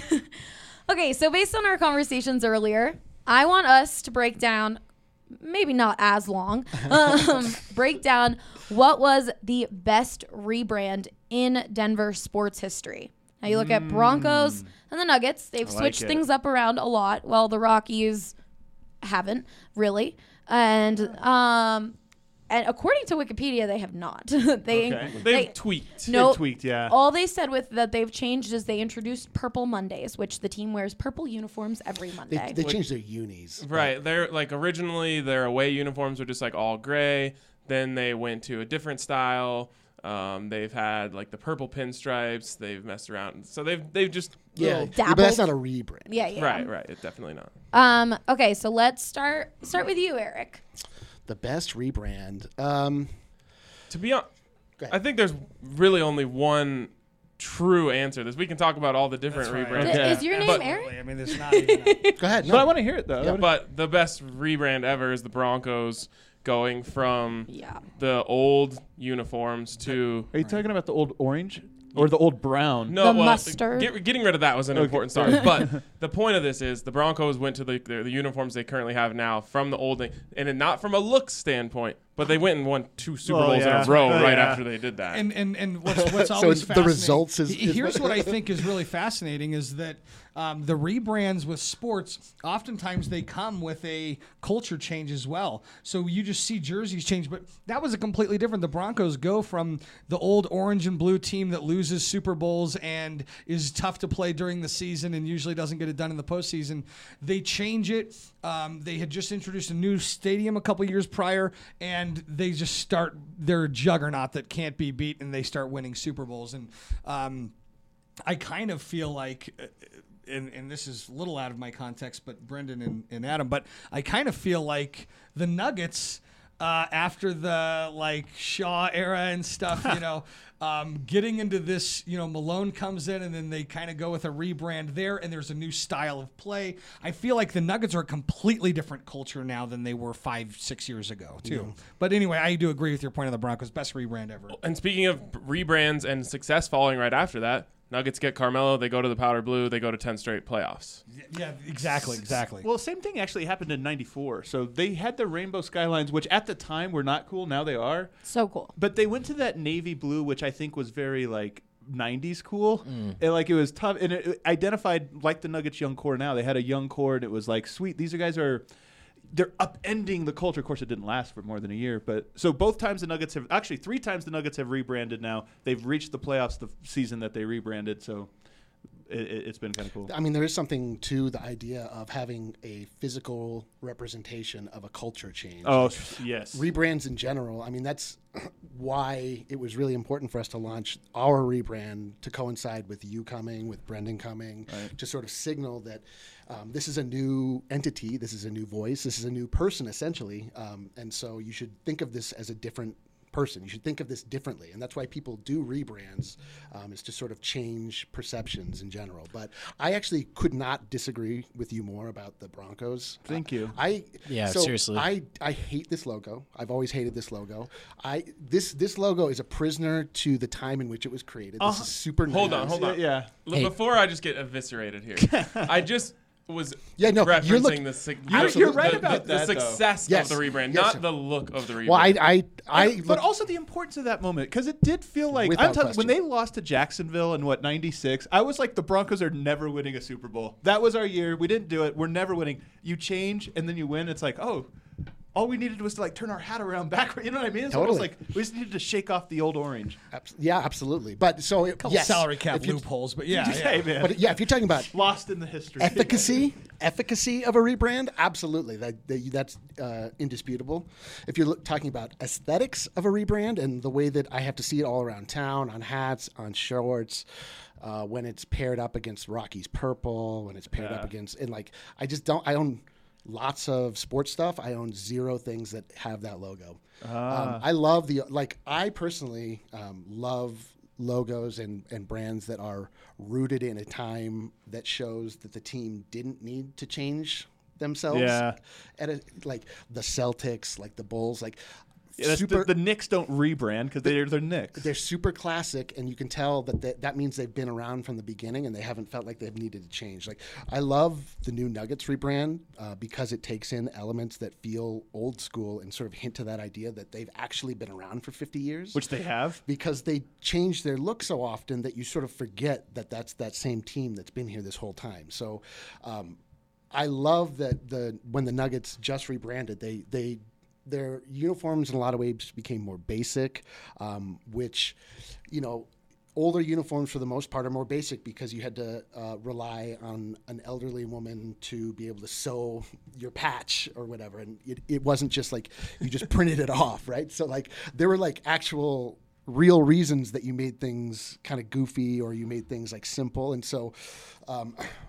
Okay. So based on our conversations earlier, I want us to break down, maybe not as long, um, break down what was the best rebrand in Denver sports history. Now you look at Broncos and the Nuggets. They've I like switched it. things up around a lot. Well, the Rockies haven't really. And um, and according to Wikipedia, they have not. they, Okay. They've they tweaked. no, They've tweaked, yeah. All they said with that they've changed is they introduced Purple Mondays, which the team wears purple uniforms every Monday. They, they changed their unis. Right. They're like originally their away uniforms were just like all gray. Then they went to a different style. Um, they've had like the purple pinstripes. They've messed around. So they've they've just Yeah, little- yeah, but that's not dabbled. a rebrand. yeah, yeah. right, right. It's definitely not. Um, okay, so let's start start with you, Eric. The best rebrand. Um, To be honest, Go ahead. I think there's really only one true answer. This we can talk about all the different That's right. rebrands. Th- Yeah. Is your name But- Aaron? I mean, it's not even. A, go ahead. But I No. want to hear it though. But the best rebrand ever is the Broncos going from Yeah. the old uniforms to Are you talking about the old orange or the old brown? no The well, mustard? Get, getting rid of that was an important start. But the point of this is the Broncos went to the, the the uniforms they currently have now from the old thing, and then not from a look standpoint, but they went and won two Super Oh, Bowls yeah. in a row Oh, right yeah. after they did that. and and and what's what's So always it's the fascinating- results is- he- is here's what- what I think is really fascinating is that um, the rebrands with sports oftentimes they come with a culture change as well. So you just see jerseys change, but that was a completely different. The Broncos go from the old orange and blue team that loses Super Bowls and is tough to play during the season and usually doesn't get it done in the postseason. They change it. Um, they had just introduced a new stadium a couple years prior, and they just start their juggernaut that can't be beat, and they start winning Super Bowls. And um, I kind of feel like, uh, and, and this is a little out of my context, but Brendan and, and Adam, but I kind of feel like the Nuggets, uh, after the like Shaw era and stuff, you know, um, getting into this, you know, Malone comes in and then they kind of go with a rebrand there, and there's a new style of play. I feel like the Nuggets are a completely different culture now than they were five, six years ago, too. But anyway, I do agree with your point on the Broncos. Best rebrand ever. And speaking of rebrands and success following right after that, Nuggets get Carmelo, they go to the powder blue, they go to ten straight playoffs. Yeah, exactly, exactly. Well, same thing actually happened in ninety-four. So they had the rainbow skylines, which at the time were not cool. Now they are. So cool. But they went to that navy blue, which I think was very like nineties cool. And like it was tough. And it, it identified like the Nuggets young core now. They had a young core, and it was like, sweet, these are guys are they're upending the culture. Of course, it didn't last for more than a year. But so both times the Nuggets have actually three times the Nuggets have rebranded now. They've reached the playoffs the season that they rebranded. So it, it, it's been kind of cool. I mean, there is something to the idea of having a physical representation of a culture change. Oh, yes. Rebrands in general, I mean, that's why it was really important for us to launch our rebrand to coincide with you coming, with Brendan coming, Right. to sort of signal that um, this is a new entity, this is a new voice, this is a new person, essentially. Um, and so you should think of this as a different person. You should think of this differently. And that's why people do rebrands, um, is to sort of change perceptions in general. But I actually could not disagree with you more about the Broncos. Thank Uh, you. I Yeah, so seriously. I, I hate this logo. I've always hated this logo. I this this logo is a prisoner to the time in which it was created. This Uh-huh. is super Hold nice. on, hold on. Yeah. L- Hey. Before I just get eviscerated here, I just was Yeah, no, referencing you're look- the, sig- You're- the- you're the- right the- about the that, though. success Yes. of the rebrand, Yes, not sir. the look of the rebrand. Well, I I I but look, also the importance of that moment, because it did feel like Without I'm telling you, when question. they lost to Jacksonville in what ninety-six, I was like, the Broncos are never winning a Super Bowl. That was our year. We didn't do it. We're never winning. You change and then you win. It's like, oh, all we needed was to like turn our hat around backward. You know what I mean? It's almost Totally. like we just needed to shake off the old orange. abs- yeah, absolutely. But so it, Couple yes, salary cap if you- loopholes, but yeah, Hey, yeah. man. But yeah, if you're talking about Lost in the history. efficacy, efficacy of a rebrand, absolutely, that, that that's uh, indisputable. If you're look, talking about aesthetics of a rebrand and the way that I have to see it all around town, on hats, on shorts, uh, when it's paired up against Rocky's purple, when it's paired up Yeah. against, and like I just don't. I own lots of sports stuff. I own zero things that have that logo. Um, I love the like. I personally um, love logos and, and brands that are rooted in a time that shows that the team didn't need to change themselves. Yeah. At a, like the Celtics, like the Bulls, like Yeah, that's super. the, the Knicks don't rebrand because they're they're Knicks. they're super classic, and you can tell that they, that means they've been around from the beginning, and they haven't felt like they've needed to change. Like I love the new Nuggets rebrand uh, because it takes in elements that feel old school and sort of hint to that idea that they've actually been around for fifty years. Which they have. Because they change their look so often that you sort of forget that that's that same team that's been here this whole time. So um, I love that the when the Nuggets just rebranded, they they their uniforms in a lot of ways became more basic, um, which, you know, older uniforms for the most part are more basic because you had to uh, rely on an elderly woman to be able to sew your patch or whatever. And it, it wasn't just like you just printed it off, right? So like there were like actual real reasons that you made things kind of goofy or you made things like simple. And so um,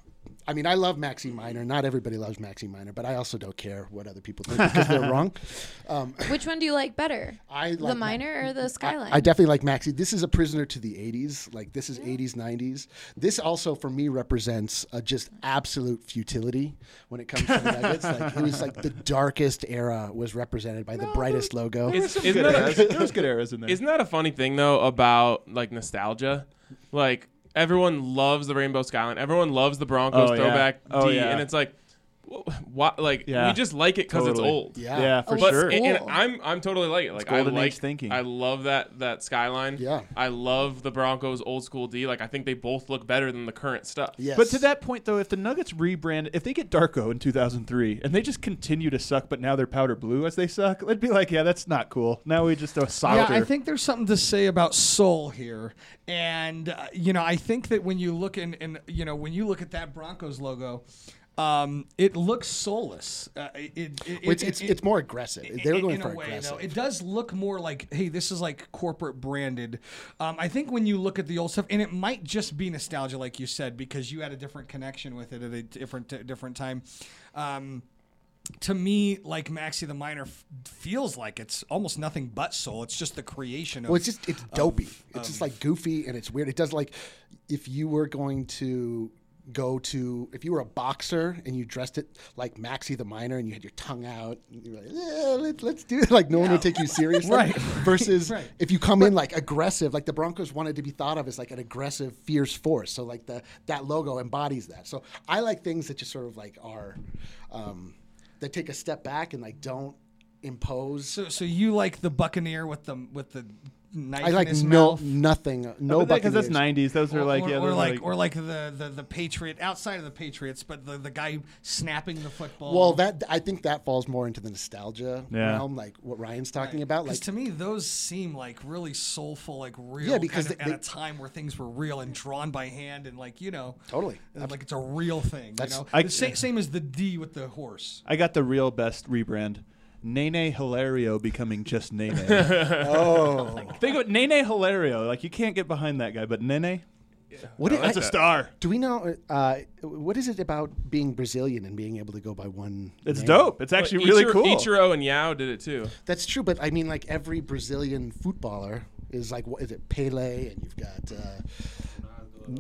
I mean, I love Maxie Minor. Not everybody loves Maxie Minor, but I also don't care what other people think because they're wrong. Um, Which one do you like better? I like the Ma- Minor or the Skyline? I, I definitely like Maxie. This is a prisoner to the eighties. Like, this is eighties, nineties. This also, for me, represents a just absolute futility when it comes to the Nuggets. Like, it was like the darkest era was represented by the brightest logo. Is, Some isn't, good that eras. a, There was good eras in there. isn't that a funny thing though about like nostalgia? Like everyone loves the Rainbow Skyline. Everyone loves the Broncos Oh, yeah. throwback Oh, D, yeah. and it's like, what? Like Yeah. we just like it because Totally. it's old. Yeah. Yeah, for Oh, But sure. and, and Cool. I'm I'm totally like it. Like I golden like age thinking. I love that that skyline. Yeah. I love the Broncos old school D. Like I think they both look better than the current stuff. Yes. But to that point, though, if the Nuggets rebrand, if they get Darko in two thousand three and they just continue to suck, but now they're powder blue as they suck, it'd be like, yeah, that's not cool. Now we just a softer. Yeah, I think there's something to say about soul here, and uh, you know, I think that when you look in, and you know, when you look at that Broncos logo, um, it looks soulless. Uh, it, it, it, Well, it's, it- it's, it- it's more aggressive. They were in- going in for a way, aggressive. though, it does look more like, hey, this is like corporate branded. Um, I think when you look at the old stuff, and it might just be nostalgia, like you said, because you had a different connection with it at a different different time. Um, to me, like Maxie the Minor f- feels like it's almost nothing but soul. It's just the creation of. Well, it's just it's dopey. it's of- just like goofy and it's weird. It does like if you were going to go to if you were a boxer and you dressed it like Maxie the Minor and you had your tongue out, and you're like, yeah, let's let's do it. Like no one would take you seriously. Right. Versus Right. if you come in like aggressive, like the Broncos wanted to be thought of as like an aggressive, fierce force. So like the that logo embodies that. So I like things that just sort of like are um, that take a step back and like don't impose. So, so you like the Buccaneer with the with the knife I like in his no mouth? nothing. No, because that's Buccaneers. nineties. Those are Or, like or, yeah, or those are like, or like the, the, the Patriot outside of the Patriots, but the, the guy snapping the football. Well, that I think that falls more into the nostalgia Yeah. realm, like what Ryan's talking about. Because Like to me, those seem like really soulful, like real. Yeah, because kind of they- at a time where things were real and drawn by hand, and like you know, Totally. uh, like it's a real thing. That's- you know, I- the same, same as the D with the horse. I got the real best rebrand. Nene Hilario becoming just Nene. oh, Think of Nene Hilario. Like you can't get behind that guy, but Nene, what No, is, that's that's I- a star. do we know? Uh, what is it about being Brazilian and being able to go by one? It's name? dope. It's actually really Ichiro, cool. Ichiro and Yao did it too. That's true, but I mean, like every Brazilian footballer is like, what is it, Pele, and you've got. Uh,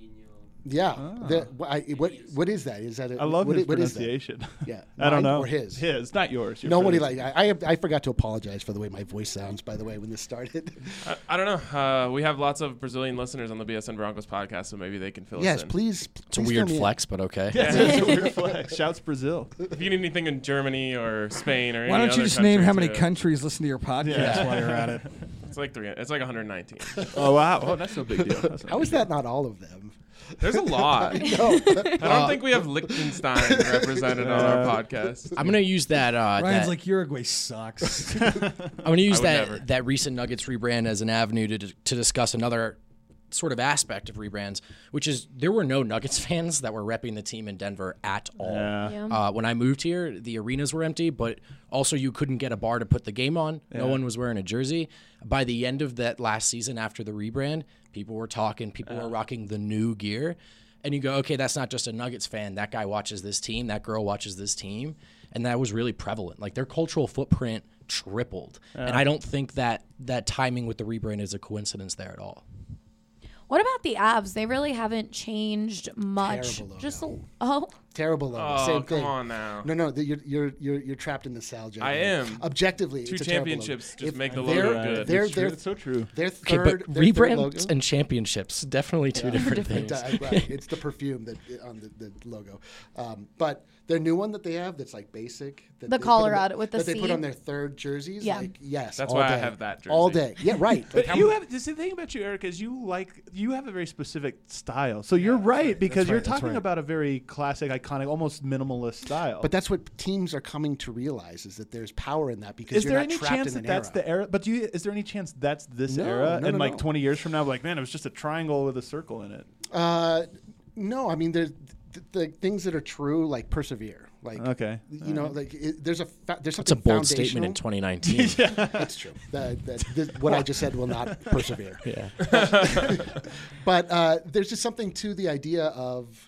Yeah. The, wh- I, what what is that? Is that a, I love what, his i- what is that? pronunciation. Yeah. I don't Mine know. or his? His, not yours. Your Nobody friend's. like I, I I forgot to apologize for the way my voice sounds. By the way, when this started. I, I don't know. Uh, we have lots of Brazilian listeners on the B S N Broncos podcast, so maybe they can fill yes, us in. please. It's a weird flex, but okay. It's a weird flex. Shouts Brazil. If you need anything in Germany or Spain or any Why don't you other just name how many country, too. countries listen to your podcast Yeah. while you're at it? It's like three. It's like one hundred nineteen. Oh wow. Oh, that's no big deal. That's no How big is that not all of them? There's a lot. No. I don't think we have Liechtenstein represented on our Uh, podcast. I'm gonna use that. Uh, Ryan's that like Uruguay sucks. I'm gonna use I would that never. that recent Nuggets rebrand as an avenue to to discuss another sort of aspect of rebrands, which is there were no Nuggets fans that were repping the team in Denver at all. Yeah. Yeah. Uh, when I moved here, the arenas were empty, but also you couldn't get a bar to put the game on. No Yeah. one was wearing a jersey. By the end of that last season, after the rebrand, people were talking. People were rocking the new gear. And you go, okay, that's not just a Nuggets fan. That guy watches this team. That girl watches this team. And that was really prevalent. Like their cultural footprint tripled. And I don't think that that timing with the rebrand is a coincidence there at all. What about the Avs? They really haven't changed much. Terrible logo. Just a, oh, Terrible logo. Oh, Same come thing. on now. No, no, the, you're you're you're you're trapped in nostalgia. I am. Objectively, Two it's a terrible logo. championships just If make the they're- logo good. They're, It's true. they're, It's so true. Their Okay, third, but their third rebrands logo. and championships, definitely two different things. Uh, right. It's the perfume that on the, the logo. Um, but their new one that they have that's like basic. That The they put on Colorado with the that they put C. on their third jerseys. Yeah. Like, yes. That's all why I day. have that All jersey. day. Yeah, right. But Like, you I'm- have the thing about you, Eric, is you like you have a very specific style. So you're right because That's you're right, that's talking right. about a very classic, iconic, almost minimalist style. But that's what teams are coming to realize is that there's power in that because is you're there not any trapped chance in that an that's era. the era? But do you, is there any chance that's this No, era? no, and no, like no. twenty years from now, like man, it was just a triangle with a circle in it. Uh, no, I mean there's th- the things that are true like persevere. Like Okay. you know, like it, there's a fa- there's That's a something bold statement in foundational. twenty nineteen. That's true. That, that, this, what I just said will not persevere. Yeah. But uh, there's just something to the idea of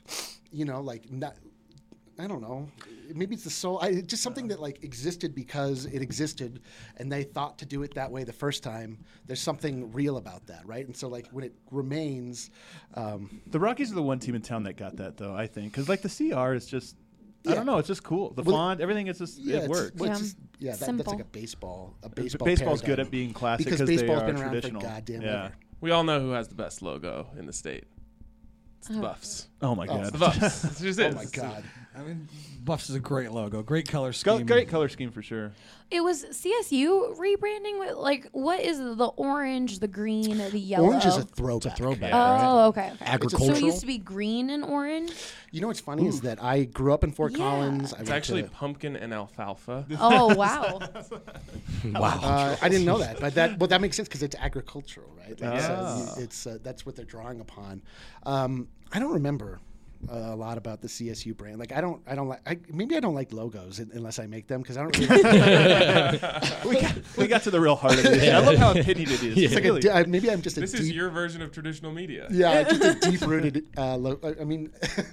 you know, like not. I don't know. Maybe it's the soul. I, just something that like existed because it existed, and they thought to do it that way the first time. There's something real about that, right? And so like when it remains, um, the Rockies are the one team in town that got that, though. I think because like the C R is just, I Yeah. don't know, it's just cool. The Well, font, everything is just yeah, it it's- works. well, it's Yeah. just- yeah, that, that's Simple. like a baseball. A baseball. Baseball's good paradigm. at being classic because because they baseball's are been around traditional. for goddamn Yeah. ever. We all know who has the best logo in the state. It's the Oh. Buffs. Oh my Oh. god. The Buffs. It's just Oh it. my god. I mean, Buffs is a great logo, great color Go- scheme. Great color scheme for sure. It was C S U rebranding with like what is the orange, the green, the yellow? Orange is a throwback. throwback. Oh, okay, okay. So Agricultural? it used to be green and orange. You know what's funny is that I grew up in Fort Yeah. Collins. I It's went actually to, pumpkin and alfalfa. Oh wow. Wow. Uh, I didn't know that, but that well that makes sense because it's agricultural, right? Like, so Ah. you- it's uh, that's what they're drawing upon. Um, I don't remember uh, a lot about the C S U brand. Like I don't, I don't like. I, maybe I don't like logos un- unless I make them because I don't really. we, got, we got to the real heart of it. I love how opinionated it is. It's like a Really. di- uh, maybe I'm just a This deep. is your version of traditional media. Yeah, just a deep rooted. Uh, lo- I mean,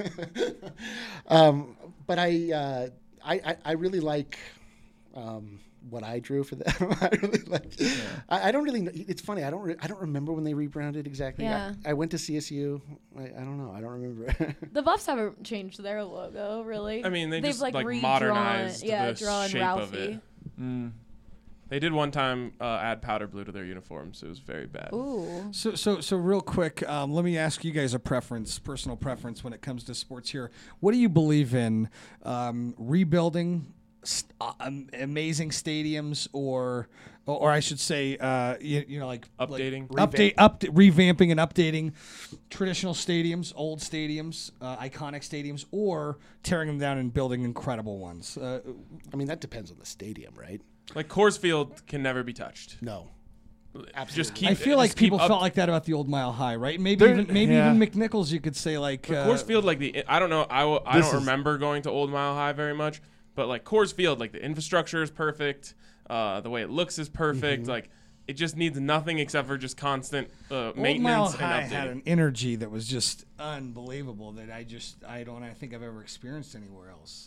um, but I, uh, I, I, I really like. Um, what I drew for them, I really like. I, I don't really. Know, it's funny. I don't. Re- I don't remember when they rebranded exactly. Yeah. I, I went to C S U. I, I don't know. I don't remember. The Buffs haven't changed their logo really. I mean, they They've just like, like, redrawn, modernized yeah, the drawn shape Ralphie. of it. Mm. They did one time uh, add powder blue to their uniforms. It was very bad. Ooh. So, so, so, real quick, um, let me ask you guys a preference, personal preference, when it comes to sports here. What do you believe in? Um, rebuilding st- uh, um, amazing stadiums, or, or, or I should say, uh, you, you know, like Updating? like update, up, revamping and updating traditional stadiums, old stadiums, uh, iconic stadiums, or tearing them down and building incredible ones. Uh, I mean, that depends on the stadium, right? Like Coors Field can never be touched. No. Just keep. I feel like just keep people up- felt like that about the old Mile High, right? Maybe There- even maybe yeah. even McNichols, you could say like But uh, Coors Field, like the I don't know, I, w- I This don't is- remember going to Old Mile High very much, but like Coors Field, like the infrastructure is perfect, uh, the way it looks is perfect, like it just needs nothing except for just constant uh, Old Mile maintenance High and had updating. an energy that was just unbelievable that I just I don't I think I've ever experienced anywhere else.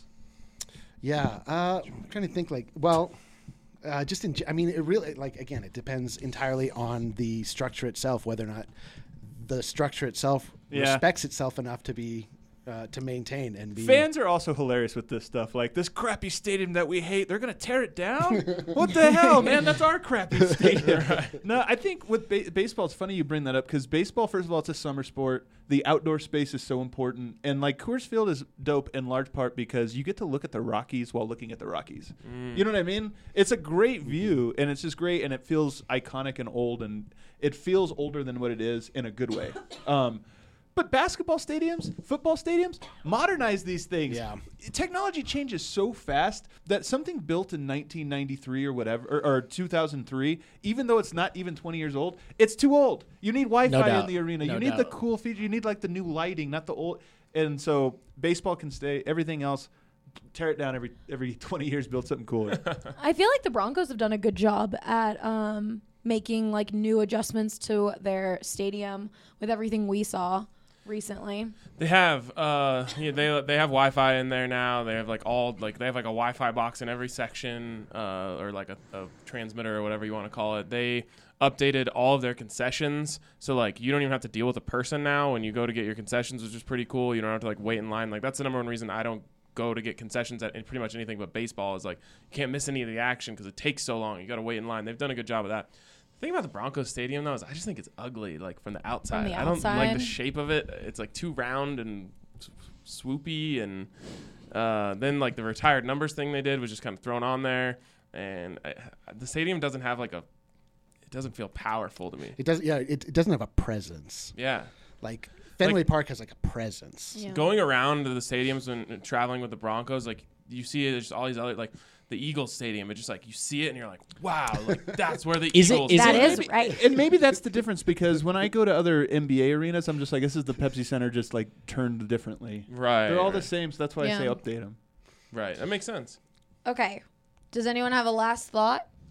Yeah. Uh, I'm trying to think. Like, well, uh, just in. ge- I mean, it really like again, it depends entirely on the structure itself, whether or not the structure itself Yeah. respects itself enough to be uh, to maintain and be. Fans are also hilarious with this stuff. Like this crappy stadium that we hate, they're gonna tear it down. What the hell, man? That's our crappy stadium. No, I think with ba- baseball, it's funny you bring that up because baseball, first of all, it's a summer sport. The outdoor space is so important, and like Coors Field is dope in large part because you get to look at the Rockies while looking at the Rockies. You know what I mean? It's a great view, and it's just great, and it feels iconic and old, and it feels older than what it is in a good way. Um, But basketball stadiums, football stadiums, modernize these things. Yeah. Technology changes so fast that something built in nineteen ninety-three or whatever, or, or two thousand three, even though it's not even twenty years old, it's too old. You need Wi-Fi No in doubt. the arena. No you need the doubt. cool feature. You need like the new lighting, not the old. And so baseball can stay. Everything else, tear it down every every twenty years, build something cooler. I feel like the Broncos have done a good job at um, making like new adjustments to their stadium with everything we saw recently. They have uh yeah, they they have Wi-Fi in there now. They have like all like they have like a Wi-Fi box in every section uh or like a, a transmitter or whatever you want to call it. They updated all of their concessions, so like you don't even have to deal with a person now when you go to get your concessions, which is pretty cool. You don't have to like wait in line. Like that's the number one reason I don't go to get concessions at in pretty much anything but baseball is like you can't miss any of the action because it takes so long. You got to wait in line. They've done a good job of that. The thing about the Broncos Stadium, though, is I just think it's ugly, like, from the outside. the I don't like outside? the shape of it. It's, like, too round and s- swoopy. And uh, then, like, the retired numbers thing they did was just kind of thrown on there. And I, the stadium doesn't have, like, a – it doesn't feel powerful to me. It does. Yeah. It, it doesn't have a presence. Yeah. Like Fenway Like- Park has like a presence. Yeah. Going around to the stadiums when uh, traveling with the Broncos, like, you see it, there's all these other – like, the Eagles Stadium, it just, like, you see it and you're like, wow, like, that's where the Is it- Eagles is That it- play. is right. And maybe that's the difference because when I go to other N B A arenas, I'm just like, this is the Pepsi Center just like turned differently. Right. They're all the right. same, so that's why I say Yeah. update them. Right. That makes sense. Okay. Does anyone have a last thought?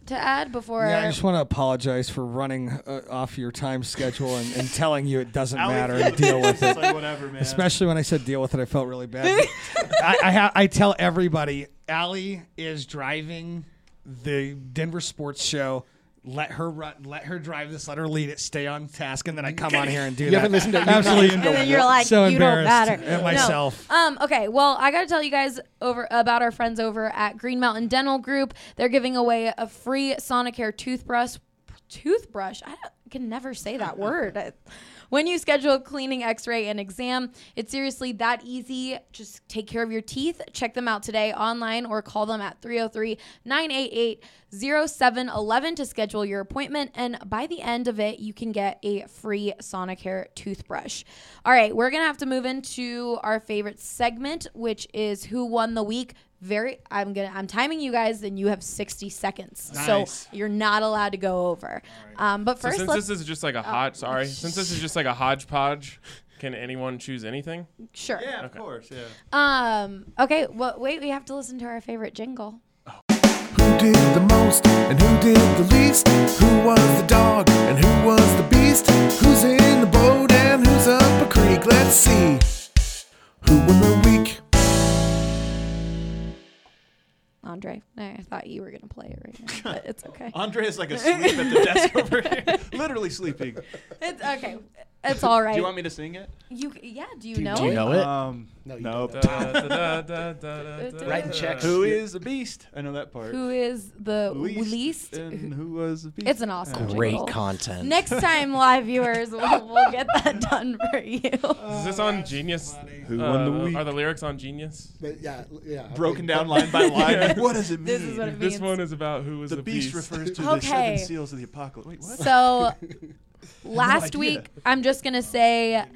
to add before? Yeah, I just want to apologize for running uh, off your time schedule and, and telling you it doesn't Allie matter feels and deal with it's it. like whatever, man. Especially when I said deal with it, I felt really bad. I I, ha- I tell everybody, Allie is driving the Denver Sports Show. Let her run. Let her drive this. Let her lead it. Stay on task, and then I come on here and do You that. haven't listened to- you've Absolutely. not listened to And then you're like, so you don't embarrassed matter. at No. myself. Um, okay, well, I got to tell you guys over about our friends over at Green Mountain Dental Group. They're giving away a free Sonicare toothbrush. Toothbrush? I don't- can never say that word. I- When you schedule a cleaning, x-ray, and exam, it's seriously that easy. Just take care of your teeth. Check them out today online or call them at three oh three, nine eight eight, oh seven one one to schedule your appointment. And by the end of it, you can get a free Sonicare toothbrush. All right, we're going to have to move into our favorite segment, which is Who Won the Week. Very, I'm gonna, I'm timing you guys, and you have sixty seconds, Nice. so you're not allowed to go over. Um, but So first, since let's this is just like a hodge, sorry, since this is just like a hodgepodge, can anyone choose anything? sure. Yeah, of Okay. course, yeah. Um. Okay. Well, wait. We have to listen to our favorite jingle. Who did the most and who did the least? Who was the dog and who was the beast? Who's in the boat and who's up a creek? Let's see. Who won the week? Andre, I thought you were gonna play it right now, but it's okay. Andre is like asleep at the desk over here, literally sleeping. It's okay. It's all right. Do you want me to sing it? You? Yeah. Do you Do you- know Do you it? know it? Um, No, you nope. don't. Da, da, da, da, da, da, Writing da. checks. Who is the beast? I know that part. Who is the Least, least? and who was the beast? It's an awesome Great jingle. content. Next time, live viewers, we'll, we'll get that done for you. Is this on Genius? Who won the Uh, week? Are the lyrics on Genius? But yeah, yeah. Broken down line by line. Like, what does it mean? This is what it This means. one is about who was the the, beast, beast. refers to the Okay. seven seals of the apocalypse. Wait, what? So, last idea. week, I'm just gonna say.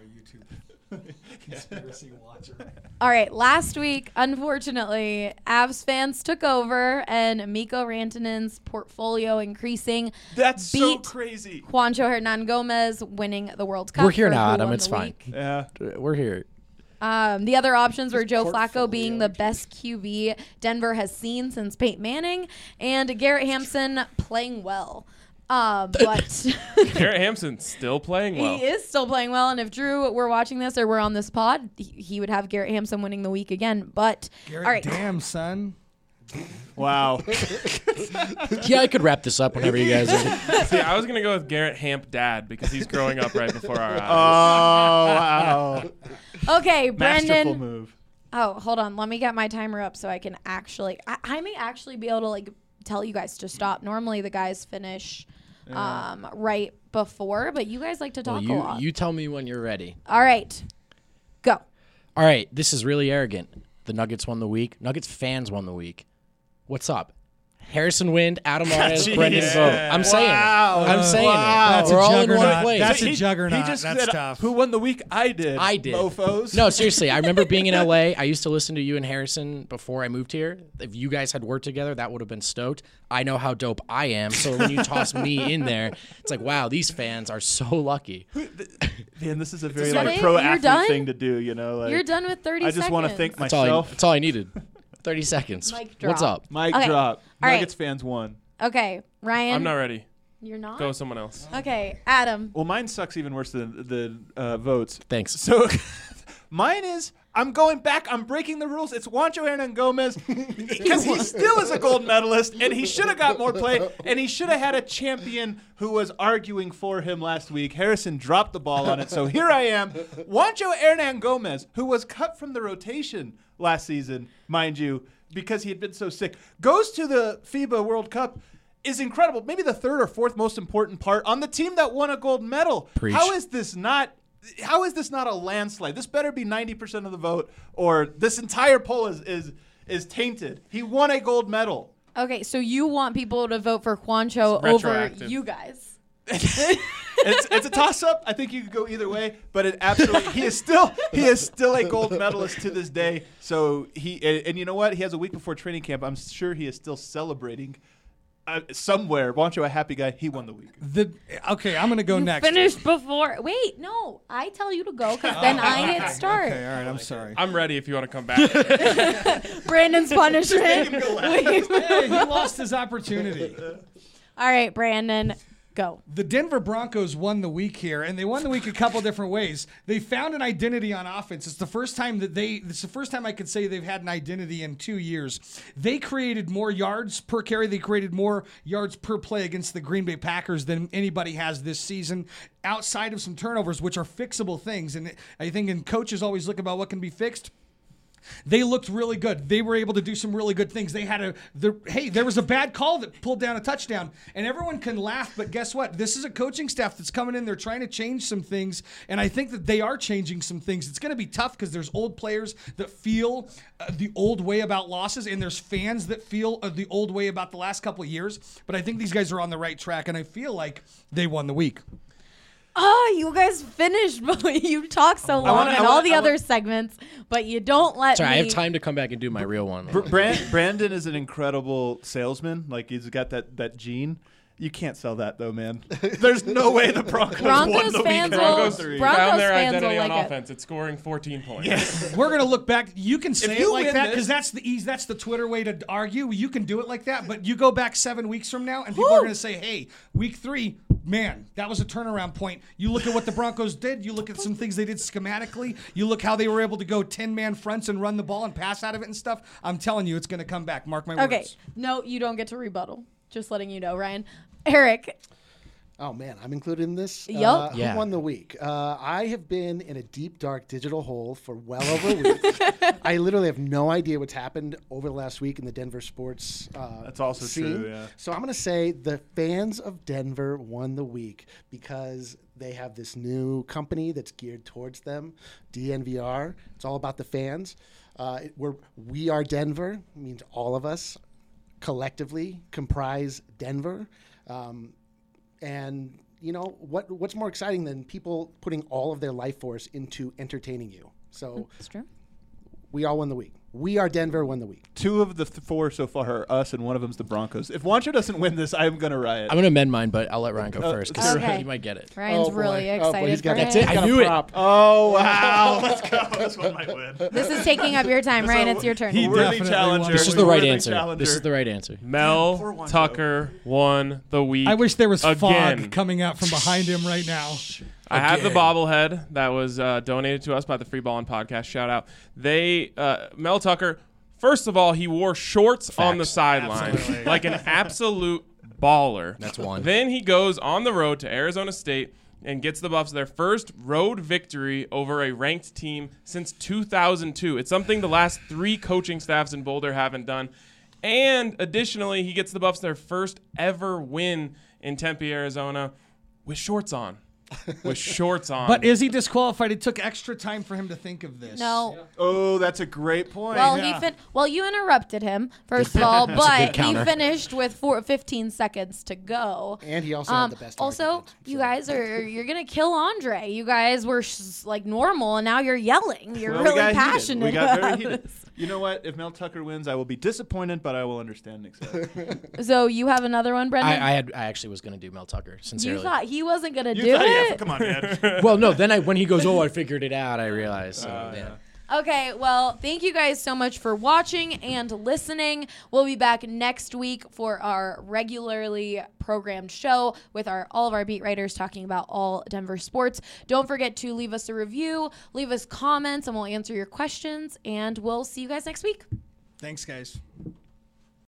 Conspiracy watcher. All right, last week, unfortunately, Avs fans took over and Mikko Rantanen's portfolio increasing. That's so beat crazy. Juancho Hernan Gomez winning the World Cup. We're here for now, who Adam. won It's the fine. week. Yeah. We're here. Um, the other options were Joe Flacco portfolio, being the best Q B Denver has seen since Peyton Manning, and Garrett Hampson playing well. Um, but Garrett Hampson still playing well. he is still playing well, and if Drew were watching this or we're on this pod, he, he would have Garrett Hampson winning the week again. But Garrett, all right, damn son. Wow. Yeah, I could wrap this up whenever you guys are. See, I was gonna go with Garrett Hamp Dad because he's growing up right before our Oh, eyes. wow. okay, Masterful Brendan. move. Oh, hold on. Let me get my timer up so I can actually. I, I may actually be able to like tell you guys to stop. Normally, the guys finish um, right before, but you guys like to talk Well, a you, lot. you tell me when you're ready. All right, go. All right, this is really arrogant. The Nuggets won the week. Nuggets fans won the week. What's up? Harrison Wind, Adam Arez, Jeez. Brendan Vogt. I'm saying Wow. it. I'm saying Wow. it. That's We're a all in one juggernaut. place. That's a He- juggernaut. He just That's said, tough. Who won the week? I did. I did. Mofos. No, seriously. I remember being in L A. I used to listen to you and Harrison before I moved here. If you guys had worked together, that would have been stoked. I know how dope I am. So when you toss me in there, it's like, wow, these fans are so lucky. Man, this is a very that like it? pro You're athlete done? thing to do. You know, like You're done with thirty I just seconds. want to thank That's all, I, myself. that's all I needed. thirty seconds. Mic What's drop. up? Mic Okay. drop. All right. Nuggets fans won. Okay, Ryan. I'm not ready. You're not. Go with someone else. Okay, Adam. Well, mine sucks even worse than the uh, votes. Thanks. So mine is I'm going back. I'm breaking the rules. It's Juancho Hernan Gomez because he still is a gold medalist and he should have got more play and he should have had a champion who was arguing for him last week. Harrison dropped the ball on it. So here I am. Juancho Hernan Gomez, who was cut from the rotation last season, mind you, because he had been so sick, goes to the FIBA World Cup. Is incredible. Maybe the third or fourth most important part on the team that won a gold medal. Preach. How is this not? How is this not a landslide? This better be ninety percent of the vote, or this entire poll is is is tainted. He won a gold medal. Okay, so you want people to vote for Juancho It's over retroactive. you guys? It's it's a toss up. I think you could go either way, but it absolutely he is still he is still a gold medalist to this day. So he and, and you know what? He has a week before training camp. I'm sure he is still celebrating uh, somewhere. Juancho, a happy guy, he won the week. The okay, I'm gonna go You next. finished before. Wait, no. I tell you to go because then I hit start. Okay, all right. I'm sorry. I'm ready if you want to come back. Brandon's punishment. Hey, he lost his opportunity. All right, Brandon, go. The Denver Broncos won the week here, and they won the week a couple different ways. They found an identity on offense. It's the first time that they, it's the first time I could say they've had an identity in two years. They created more yards per carry. They created more yards per play against the Green Bay Packers than anybody has this season, outside of some turnovers, which are fixable things. And I think, and coaches always look about what can be fixed. They looked really good. They were able to do some really good things. They had a, the, hey, there was a bad call that pulled down a touchdown, and everyone can laugh, but guess what? This is a coaching staff that's coming in. They're trying to change some things, and I think that they are changing some things. It's going to be tough because there's old players that feel uh, the old way about losses, and there's fans that feel uh, the old way about the last couple of years, but I think these guys are on the right track, and I feel like they won the week. Oh, you guys finished, but you talk so long wanna- in I all wanna- the I other wanna- segments, but you don't let Sorry, me. I have time to come back and do my real one. Br- Brand, Brandon is an incredible salesman. Like, he's got that, that gene. You can't sell that, though, man. There's no way the Broncos, Broncos won the fans week. will- Broncos Broncos found their fans identity will on like it. offense. It's scoring fourteen points. We're gonna look back. You can say you it like win that this- because that's the easy. That's the Twitter way to argue. You can do it like that, but you go back seven weeks from now, and people are gonna say, "Hey, week three, man, that was a turnaround point." You look at what the Broncos did. You look at some things they did schematically. You look how they were able to go ten-man fronts and run the ball and pass out of it and stuff. I'm telling you, it's gonna come back. Mark my words. Okay, no, you don't get to rebuttal. Just letting you know, Ryan. Eric, Oh man, I'm included in this. Yup. Uh, Yeah. Who won the week? Uh, I have been in a deep, dark digital hole for well over a week. I literally have no idea what's happened over the last week in the Denver sports. Uh, That's also scene. true, yeah. So I'm going to say the fans of Denver won the week because they have this new company that's geared towards them, D N V R. It's all about the fans. Uh, it, we're we are Denver. It means all of us collectively comprise Denver. Um, And you know what? What's more exciting than people putting all of their life force into entertaining you? So it's true. we all won the week. We are Denver won the week. Two of the th- four so far are us, and one of them's the Broncos. If Juancho doesn't win this, I'm going to riot. I'm going to amend mine, but I'll let Ryan go Uh, first because Okay. he might get it. Ryan's Oh, boy. really Oh, boy, excited he's got for a- it. That's it. got I a knew it. prop. Oh, wow. Let's go. This one might win. This is taking up your time, Ryan. It's your turn. He Worthy definitely challenger. won. This is the right Worthy answer. challenger. This is the right answer. Mel Poor Juancho. Tucker won the week. I wish there was fog Again. coming out from behind him right now. I have the Again. bobblehead that was uh, donated to us by the Free Ballin' Podcast. Shout out. They uh, Mel Tucker. First of all, he wore shorts on the Facts. sideline like an absolute baller. That's one. Then he goes on the road to Arizona State and gets the Buffs their first road victory over a ranked team since two thousand two. It's something the last three coaching staffs in Boulder haven't done. And additionally, he gets the Buffs their first ever win in Tempe, Arizona with shorts on. With shorts on. But is he disqualified? It took extra time for him to think of this. No. Oh, that's a great point. Well, Yeah. he fin- well, you interrupted him first of all, good but he counter. finished with four, fifteen seconds to go. And he also Um, had the best also, argument, you so. guys are you're gonna kill Andre. You guys were sh- like normal, and now you're yelling. You're Well, we really got heated. passionate We got very about heated. this. You know what? If Mel Tucker wins, I will be disappointed, but I will understand and accept. So you have another one, Brendan? I, I had. I actually was going to do Mel Tucker. Sincerely. you thought he wasn't gonna You do thought- it? yeah, come on, man. well, no. Then I, when he goes, oh, I figured it out. I realized. So, Uh, yeah. Okay, well, thank you guys so much for watching and listening. We'll be back next week for our regularly programmed show with our all of our beat writers talking about all Denver sports. Don't forget to leave us a review, leave us comments, and we'll answer your questions. And we'll see you guys next week. Thanks, guys.